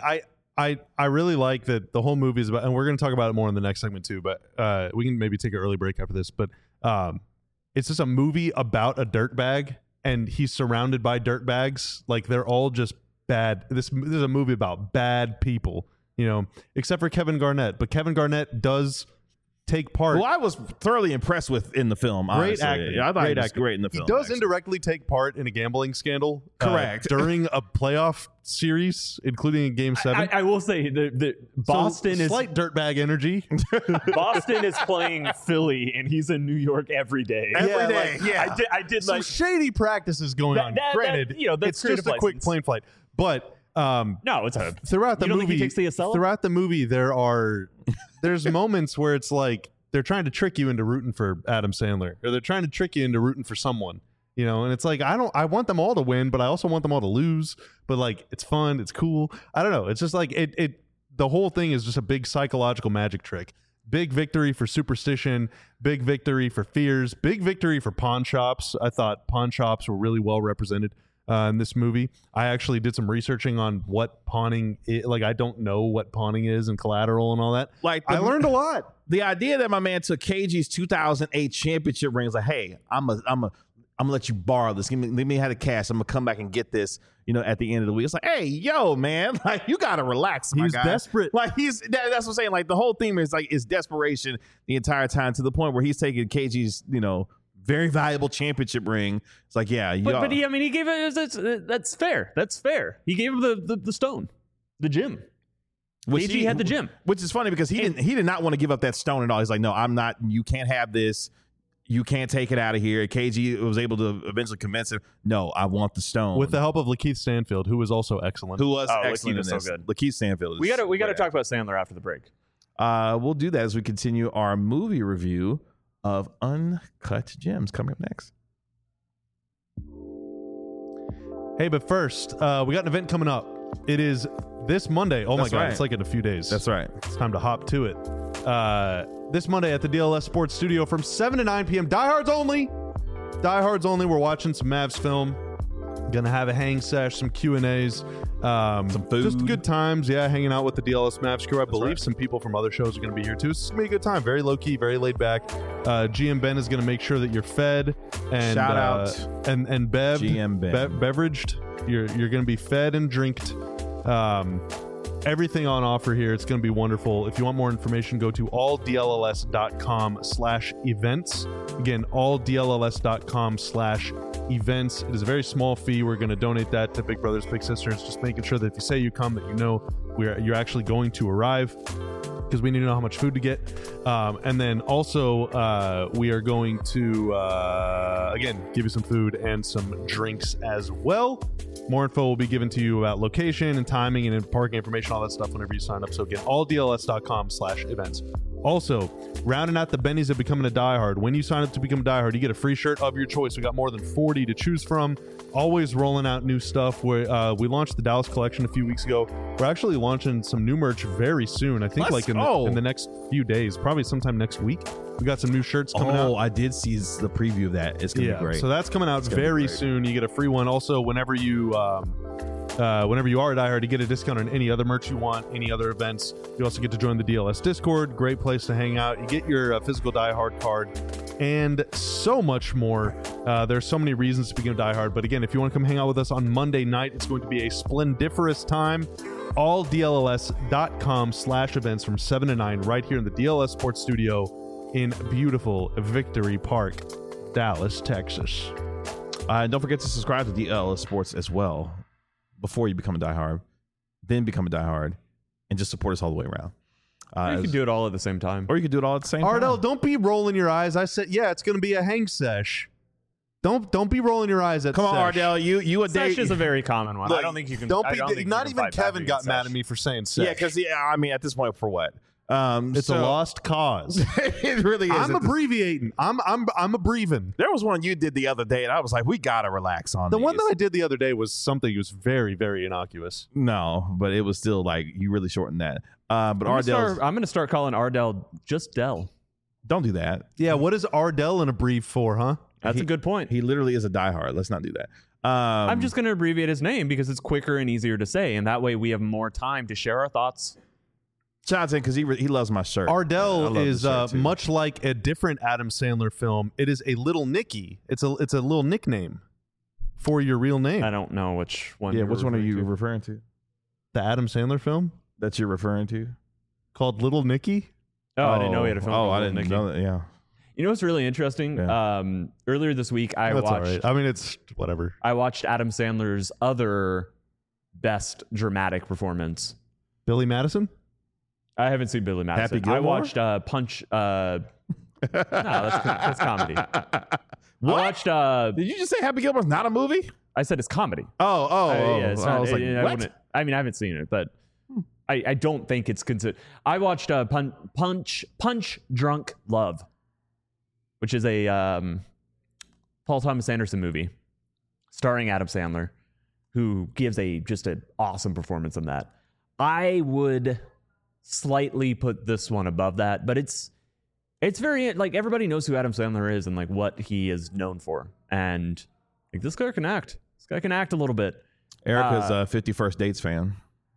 I really like that the whole movie is about, and we're going to talk about it more in the next segment too, but we can maybe take an early break after this. But it's just a movie about a dirtbag, and he's surrounded by dirtbags. Like, they're all just bad. This is a movie about bad people, except for Kevin Garnett. But Kevin Garnett does take part. Well, I was thoroughly impressed with in the film. Great actor. Yeah, I thought he was great in the film. He does indirectly take part in a gambling scandal. Correct. During a playoff series, including in Game 7. I will say the Boston is slight dirtbag energy. Boston is playing Philly, and he's in New York every day. Every day. I did some shady practices going on. Granted, it's just a quick plane flight, but. No, it's throughout the movie. Think he takes the Acela? Throughout the movie, there's moments where it's like they're trying to trick you into rooting for Adam Sandler, or they're trying to trick you into rooting for someone, and it's like I want them all to win, but I also want them all to lose. But like, it's fun, it's cool. I don't know. It's just like the whole thing is just a big psychological magic trick. Big victory for superstition, big victory for fears, big victory for pawn shops. I thought pawn shops were really well represented in this movie. I actually did some researching on what pawning is. Like, I don't know what pawning is and collateral and all that. Like, I learned a lot. The idea that my man took KG's 2008 championship ring is like, hey, I'm gonna let you borrow this. Let me have the cash. I'm gonna come back and get this. At the end of the week, it's like, hey, yo, man, like, you gotta relax. He's desperate. Like, that's what I'm saying. Like, the whole theme is like, is desperation the entire time, to the point where he's taking KG's, very valuable championship ring. It's like, yeah, but he gave it. That's fair. That's fair. He gave him the stone, the gem. KG had the gem, which is funny because he did not want to give up that stone at all. He's like, no, I'm not. You can't have this. You can't take it out of here. KG was able to eventually convince him, no, I want the stone. With the help of Lakeith Stanfield, who was also excellent. Excellent in this. So good. Lakeith Stanfield. We got to talk about Sandler after the break. We'll do that as we continue our movie review of Uncut Gems, coming up next. Hey, but first, we got an event coming up. It is this Monday. Oh, That's my God. right. It's like in a few days. That's right. It's time to hop to it. This Monday at the DLS Sports Studio from 7 to 9 p.m. Diehards only. Diehards only. We're watching some Mavs film. Gonna have a hang sesh, some Q&As, some food. just good times. Yeah, hanging out with the DLS Mavs crew. I believe right. some people from other shows are gonna be here too. It's gonna be a good time. Very low key, very laid back. GM Ben is gonna make sure that you're fed and Shout out. and Bev GM Ben. beveraged. You're gonna be fed and drinked. Everything on offer here. It's going to be wonderful. If you want more information, go to alldlls.com/events. Again, alldlls.com/events. It is a very small fee. We're going to donate that to Big Brothers Big Sisters. Just making sure that if you say you come, that you know you're actually going to arrive, because we need to know how much food to get. And then also, we are going to, again, give you some food and some drinks as well. More info will be given to you about location and timing and parking information, all that stuff whenever you sign up. So again, alldls.com/events. Also, rounding out the bennies of becoming a diehard. When you sign up to become a diehard, you get a free shirt of your choice. We got more than 40 to choose from. Always rolling out new stuff. We launched the Dallas collection a few weeks ago. We're actually launching some new merch very soon. I think Let's in go. the next few days, probably sometime next week. We got some new shirts coming out. Oh, I did see the preview of that. It's gonna be great. So that's coming out gonna be very great. soon. You get a free one. Also, whenever you are a diehard, you get a discount on any other merch you want, any other events. You also get to join the DLS Discord. Great place to hang out. You get your physical diehard card and so much more. There's so many reasons to become diehard. But again, if you want to come hang out with us on Monday night, it's going to be a splendiferous time. alldlls.com/events from 7 to 9 right here in the DLS Sports Studio in beautiful Victory Park, Dallas, Texas. And don't forget to subscribe to DLS Sports as well before you become a diehard, then become a diehard, and just support us all the way around. You can do it all at the same time. Or you could do it all at the same Ardell, time. don't be rolling your eyes. I said, yeah, it's going to be a hang sesh. Don't be rolling your eyes at Come on, sesh. Ardell. You a Sesh day. is a very common one. I don't think you can. Don't I be. don't think you Not can even fight back Kevin got against mad sesh. at me for saying sesh. Yeah, because I mean, at this point, for what? it's a lost cause. It really is. I'm abbreviating. I'm abbreviating. There was one you did the other day, and I was like, we gotta relax on The these. one that I did the other day was something that was very, very innocuous. No, but it was still like you really shortened that. But I'm Ardell, going to start calling Ardell just Dell. don't do that. Yeah, what is Ardell an abbrev for, huh? That's a good point. He literally is a diehard. Let's not do that. I'm just going to abbreviate his name because it's quicker and easier to say, and that way we have more time to share our thoughts. shout out to him because he loves my shirt. I Ardell love the is shirt, too. much like a different Adam Sandler film. It is a little Nicky. It's a little nickname for your real name. I don't know which one. Yeah, you're which one are referring you to. referring to? The Adam Sandler film That you're referring to? called Little Nicky. Oh, I didn't know he had a film. Oh, called I Little didn't Nicky. know that. Yeah. You know what's really interesting? Yeah. Earlier this week, I That's all watched. right. I mean, it's whatever. I watched Adam Sandler's other best dramatic performance. Billy Madison. I haven't seen Billy Madison. Happy Gilmore? I watched Punch. No, that's comedy. What? I watched. Did you just say Happy Gilmore's not a movie? I said it's comedy. Oh. Yeah, it's I not, was like, I what? wouldn't- I mean, I haven't seen it, but I don't think it's considered. I watched Punch Drunk Love, which is a Paul Thomas Anderson movie starring Adam Sandler, who gives just an awesome performance in that. I would slightly put this one above that, but it's very, like, everybody knows who Adam Sandler is and like what he is known for, and like this guy can act. This guy can act a little bit. Erica's a 51st Dates fan.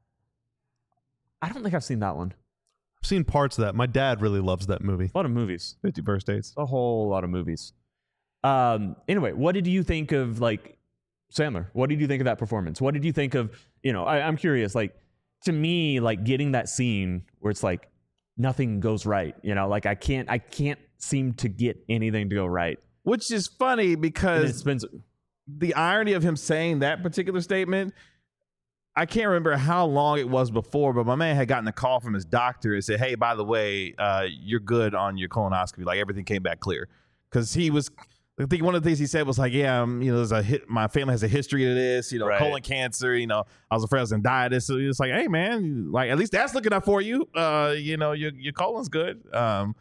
I don't think I've seen that one. I've seen parts of that. My dad really loves that movie. A lot of movies. 51st Dates. A whole lot of movies. Anyway, what did you think of, like, Sandler? What did you think of that performance? What did you think of, I'm curious, like, to me, like, getting that scene where it's like nothing goes right, like I can't seem to get anything to go right. Which is funny And because it's been the irony of him saying that particular statement, I can't remember how long it was before, but my man had gotten a call from his doctor and said, hey, by the way, you're good on your colonoscopy. Like, everything came back clear. Because I think one of the things he said was like, yeah, my family has a history of this, Right. colon cancer, I was afraid I was going to die of this. So it's like, hey, man, like, at least that's looking up for you. Your colon's good.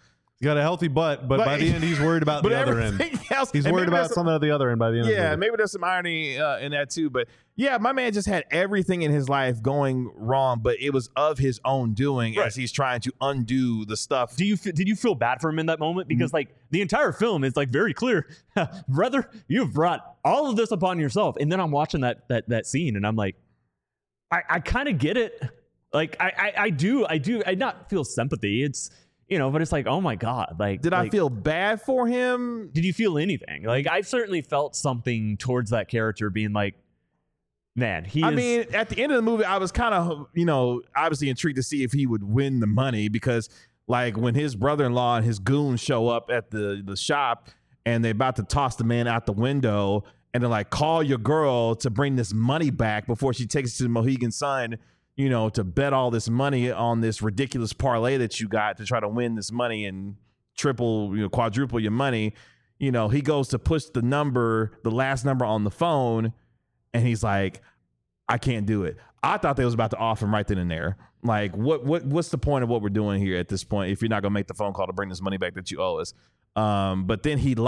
He's got a healthy butt, but by the end, he's worried about the other end. He's worried about something at the other end by the end. Yeah, maybe there's some irony in that too. But yeah, my man just had everything in his life going wrong, but it was of his own doing as he's trying to undo the stuff. Did you feel bad for him in that moment? Because like the entire film is like very clear, brother, you've brought all of this upon yourself. And then I'm watching that scene, and I'm like, I kind of get it. Like I do not feel sympathy. It's, you know, but it's like, oh my God. Like, did I feel bad for him? Did you feel anything? Like, I certainly felt something towards that character being like, man, I mean, at the end of the movie, I was kind of, you know, obviously intrigued to see if he would win the money, because like when his brother-in-law and his goons show up at the shop and they're about to toss the man out the window, and they're like, call your girl to bring this money back before she takes it to the Mohegan Sun, you know, to bet all this money on this ridiculous parlay that you got to try to win this money and triple, you know, quadruple your money. You know, he goes to push the last number on the phone, and he's like, I can't do it. I thought they was about to off him right then and there. Like, what's the point of what we're doing here at this point if you're not gonna make the phone call to bring this money back that you owe us? But then he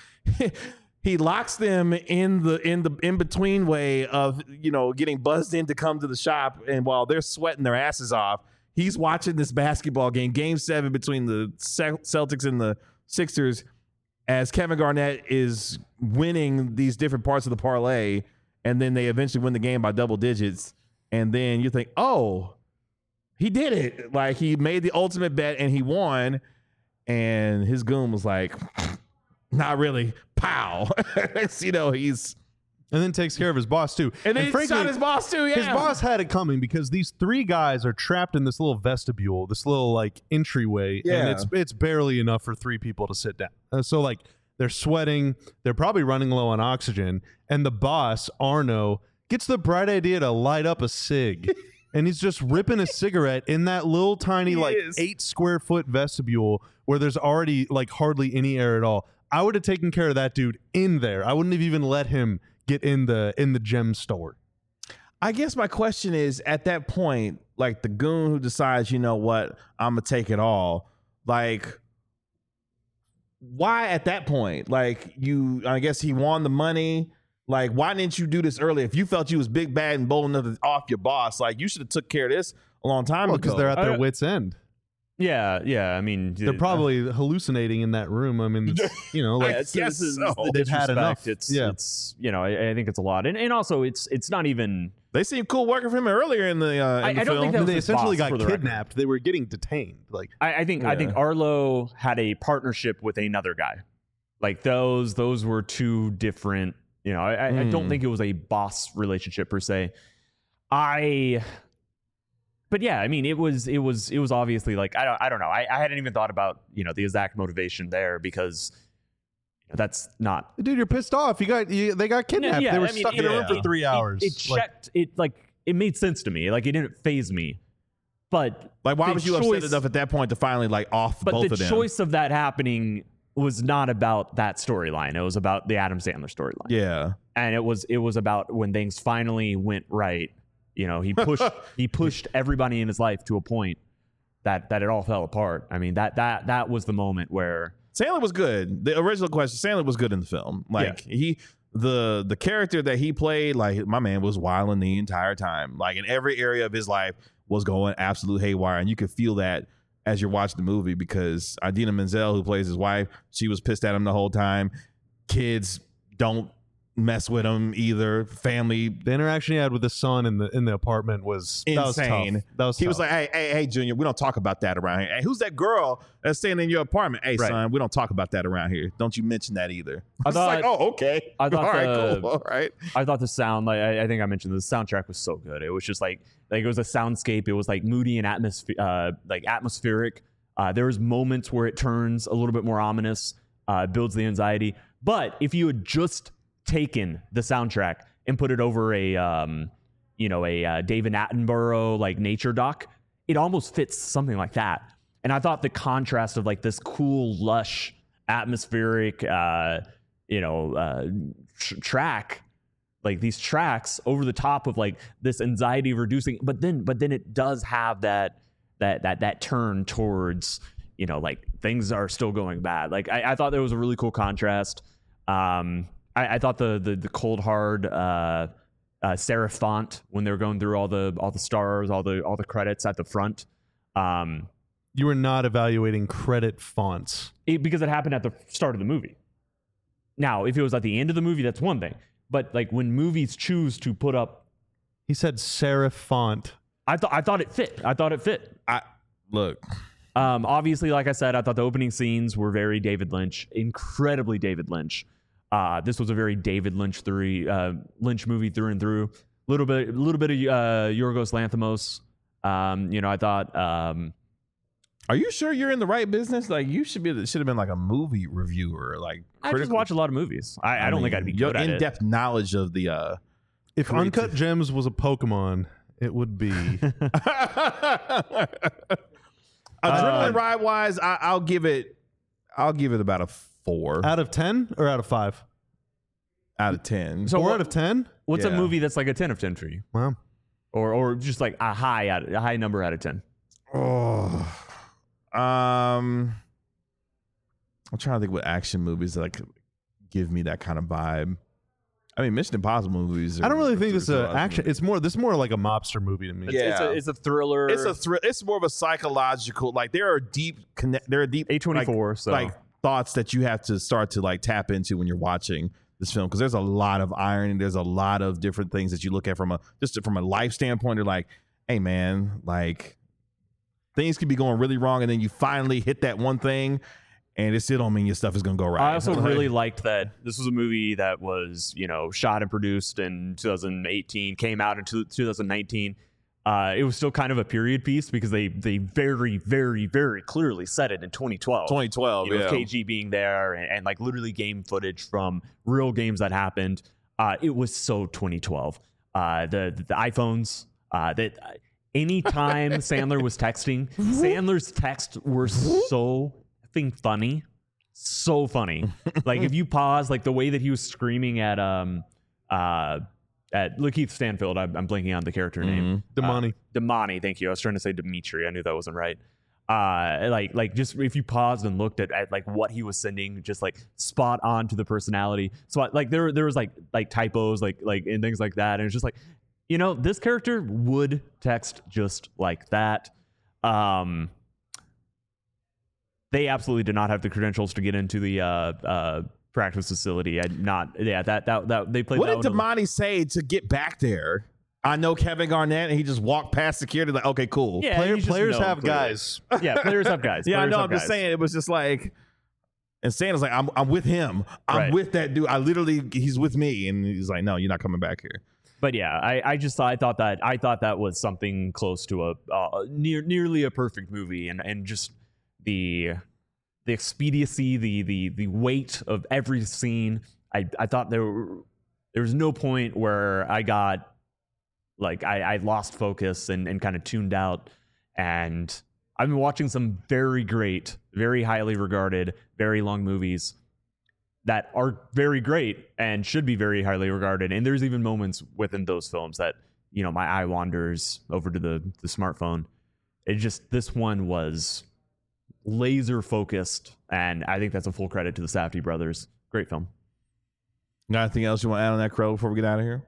locks them in between way of, you know, getting buzzed in to come to the shop, and while they're sweating their asses off, he's watching this basketball game 7 between the Celtics and the Sixers, as Kevin Garnett is winning these different parts of the parlay, and then they eventually win the game by double digits, and then you think, oh, he did it. Like, he made the ultimate bet and he won, and his goon was like, not really. Pow. You know, and then takes care of his boss too. And then he shot his boss too. Yeah, his boss had it coming, because these 3 guys are trapped in this little vestibule, this little like entryway, and it's barely enough for 3 people to sit down. So like they're sweating, they're probably running low on oxygen, and the boss Arno gets the bright idea to light up a cig. And he's just ripping a cigarette in that little tiny 8 square foot vestibule where there's already like hardly any air at all. I would have taken care of that dude in there. I wouldn't have even let him get in the gem store. I guess my question is, at that point, like the goon who decides, you know what, I'm gonna take it all. Like, why at that point? Like, I guess he won the money. Like, why didn't you do this earlier? If you felt you was big, bad, and bold enough to off your boss, like, you should have took care of this a long time ago. Because they're at their wits' end. Yeah. I mean, they're probably hallucinating in that room. I mean, you know, like they've had enough. It's you know, I think it's a lot, and also it's not even. They seemed cool working for him earlier in the. I don't think that was they essentially got kidnapped. Record. They were getting detained. Like I think Arlo had a partnership with another guy. Like those were 2 different. You know, I don't think it was a boss relationship per se. But yeah, I mean, it was obviously like, I don't know. I hadn't even thought about, you know, the exact motivation there, because that's not. Dude, you're pissed off. They got kidnapped. Yeah, they were stuck in a room for 3 hours. It made sense to me. Like, it didn't faze me. But like, why was you upset enough at that point to finally like off both of them? But the choice of that happening was not about that storyline. It was about the Adam Sandler storyline. Yeah. And it was about when things finally went right. You know, he pushed everybody in his life to a point that it all fell apart. I mean, that was the moment where Sandler was good. The original question, Sandler was good in the film. Like the character that he played, like, my man was wilding the entire time. Like, in every area of his life was going absolute haywire, and you could feel that as you're watching the movie, because Idina Menzel, who plays his wife, she was pissed at him the whole time. Kids don't mess with him either. Family. The interaction he had with the son in the apartment was insane. That was he tough. was like, hey, Junior, we don't talk about that around here. Hey, who's that girl that's staying in your apartment? Hey, son, we don't talk about that around here. Don't you mention that either. I was like, oh, okay. I thought cool. All right. I thought the sound, like I think I mentioned, the soundtrack was so good. It was just like it was a soundscape. It was like moody and atmospheric. There was moments where it turns a little bit more ominous, builds the anxiety. But if you had just taken the soundtrack and put it over a David Attenborough like nature doc, it almost fits something like that. And I thought the contrast of like this cool, lush, atmospheric, track, like these tracks over the top of like this anxiety reducing, but then it does have that turn towards, you know, like things are still going bad. Like I thought there was a really cool contrast. I thought the cold hard serif font when they were going through all the stars, all the credits at the front. You were not evaluating credit fonts Because it happened at the start of the movie. Now, if it was at the end of the movie, that's one thing. But like when movies choose to put up, he said serif font. I thought it fit. Look. Obviously, like I said, I thought the opening scenes were very David Lynch, incredibly David Lynch. This was a very David Lynch Lynch movie through and through. A little bit of Yorgos Lanthimos. You know, I thought. Are you sure you're in the right business? Like you should have been like a movie reviewer. Like I just watch a lot of movies. I don't think I'd be good at it. Your in-depth knowledge of the. If Uncut Gems was a Pokemon, it would be. Adrenaline ride wise, I'll give it about a 4 out of 10 or out of 5. Out of 10. So 4 out of 10. What's a movie that's like a 10 of 10 for you? Wow. Or just like a high number out of 10. Oh. I'm trying to think what action movies that like give me that kind of vibe. I mean, Mission Impossible movies. I don't really think this is an action. This is more like a mobster movie to me. It's a thriller. It's more of a psychological. Like there are deep A24. Like, so like thoughts that you have to start to like tap into when you're watching this film, because there's a lot of irony. There's a lot of different things that you look at from a life standpoint. You're like, hey man, like things could be going really wrong, and then you finally hit that one thing. And it still don't mean your stuff is going to go right. I also really liked that this was a movie that was, you know, shot and produced in 2018, came out in 2019. It was still kind of a period piece because they very, very, very clearly said it in 2012. 2012, you know, with KG being there and like literally game footage from real games that happened. It was so 2012. The iPhones, that anytime Sandler was texting, Sandler's texts were so funny, so funny. Like if you pause, like the way that he was screaming at Lakeith Stanfield, I'm blanking on the character name. Damani, thank you. I was trying to say Dimitri. I knew that wasn't right. Like just if you paused and looked at like what he was sending, just like spot on to the personality. So like there was like typos like and things like that, and it's just like, you know, this character would text just like that. They absolutely did not have the credentials to get into the practice facility. That they played. What that did Damani say to get back there? I know Kevin Garnett, and he just walked past security like, okay, cool. Yeah, players have guys. Yeah, players have guys. Yeah, I know. I'm just saying, it was just like, and Santa's like, I'm with him. I'm with that dude. He's with me, and he's like, no, you're not coming back here. But yeah, I thought that was something close to a nearly a perfect movie, and just the expediency, the weight of every scene. I thought there was no point where I got like I lost focus and kind of tuned out. And I've been watching some very great, very highly regarded, very long movies that are very great and should be very highly regarded. And there's even moments within those films that, you know, my eye wanders over to the smartphone. This one was laser focused, and I think that's a full credit to the Safdie brothers. Great film. Got anything else you want to add on that, Crow, before we get out of here?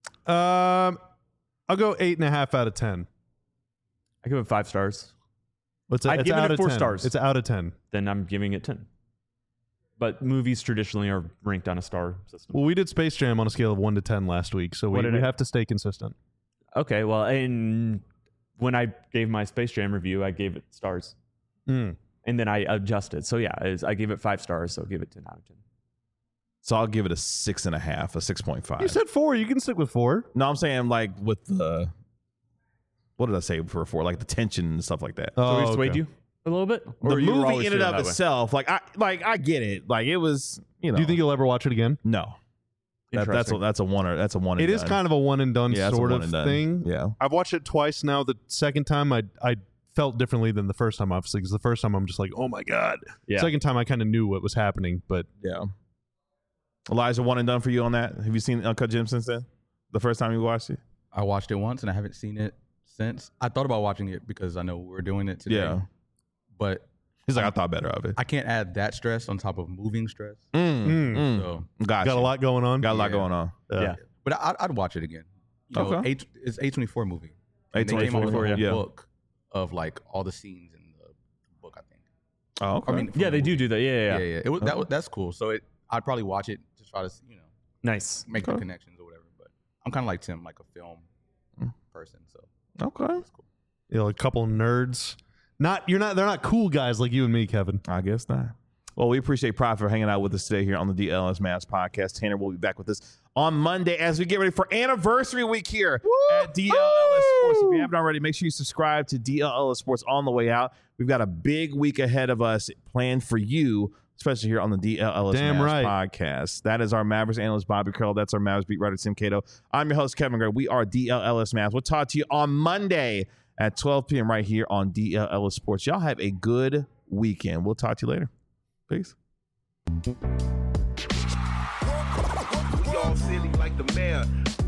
I'll go 8.5 out of 10. I give it 5 stars. I'd give it 4 stars. It's out of 10. Then I'm giving it 10. But movies traditionally are ranked on a star system. Well, we did Space Jam on a scale of 1 to 10 last week, so we have to stay consistent. Okay, well, and when I gave my Space Jam review, I gave it stars. And then I adjusted. So yeah, I gave it 5 stars, so I'll give it 10 out of 10. So I'll give it a 6.5, a 6.5. You said 4. You can stick with 4. No, I'm saying like with the, what did I say for 4? Like the tension and stuff like that. So we swayed you a little bit? Or the movie in and of itself, like I get it. Like it was, you know. Do you think you'll ever watch it again? No. That's a one and done. It is kind of a one and done sort of thing. Yeah. I've watched it twice now. The second time I felt differently than the first time, obviously, because the first time I'm just like, oh my God. Yeah. Second time I kind of knew what was happening, but yeah. Elijah, one and done for you on that? Have you seen Uncut Gems since then? The first time you watched it? I watched it once and I haven't seen it since. I thought about watching it because I know we're doing it today. Yeah. But He's like, I thought better of it. I can't add that stress on top of moving stress. Got So, a lot going on. Got a lot going on. Yeah. but I'd watch it again. You know, Okay. it's A24 movie. And they A24, came out with a whole yeah. book of like all the scenes in the book. I think. Oh, okay. I mean, from Yeah, the they movie. do that. Yeah. Yeah. It was, that's cool. So I'd probably watch it to try to Nice. make the Okay. connections or whatever. But I'm kind of like Tim, like a film person. So Okay. it's cool. You know, a couple of nerds. They're not cool guys like you and me, Kevin. I guess not. Well, we appreciate Prop for hanging out with us today here on the DLS Mavs podcast. Tanner will be back with us on Monday as we get ready for anniversary week here at DLS Sports. If you haven't already, make sure you subscribe to DLS Sports on the way out. We've got a big week ahead of us planned for you, especially here on the DLS Damn Mavs right. podcast. That is our Mavericks analyst, Bobby Curl. That's our Mavs beat writer, Tim Cato. I'm your host, Kevin Gray. We are DLS Mavs. We'll talk to you on Monday at 12 p.m. right here on DLS Sports. Y'all have a good weekend. We'll talk to you later. Peace. We all silly like the mayor.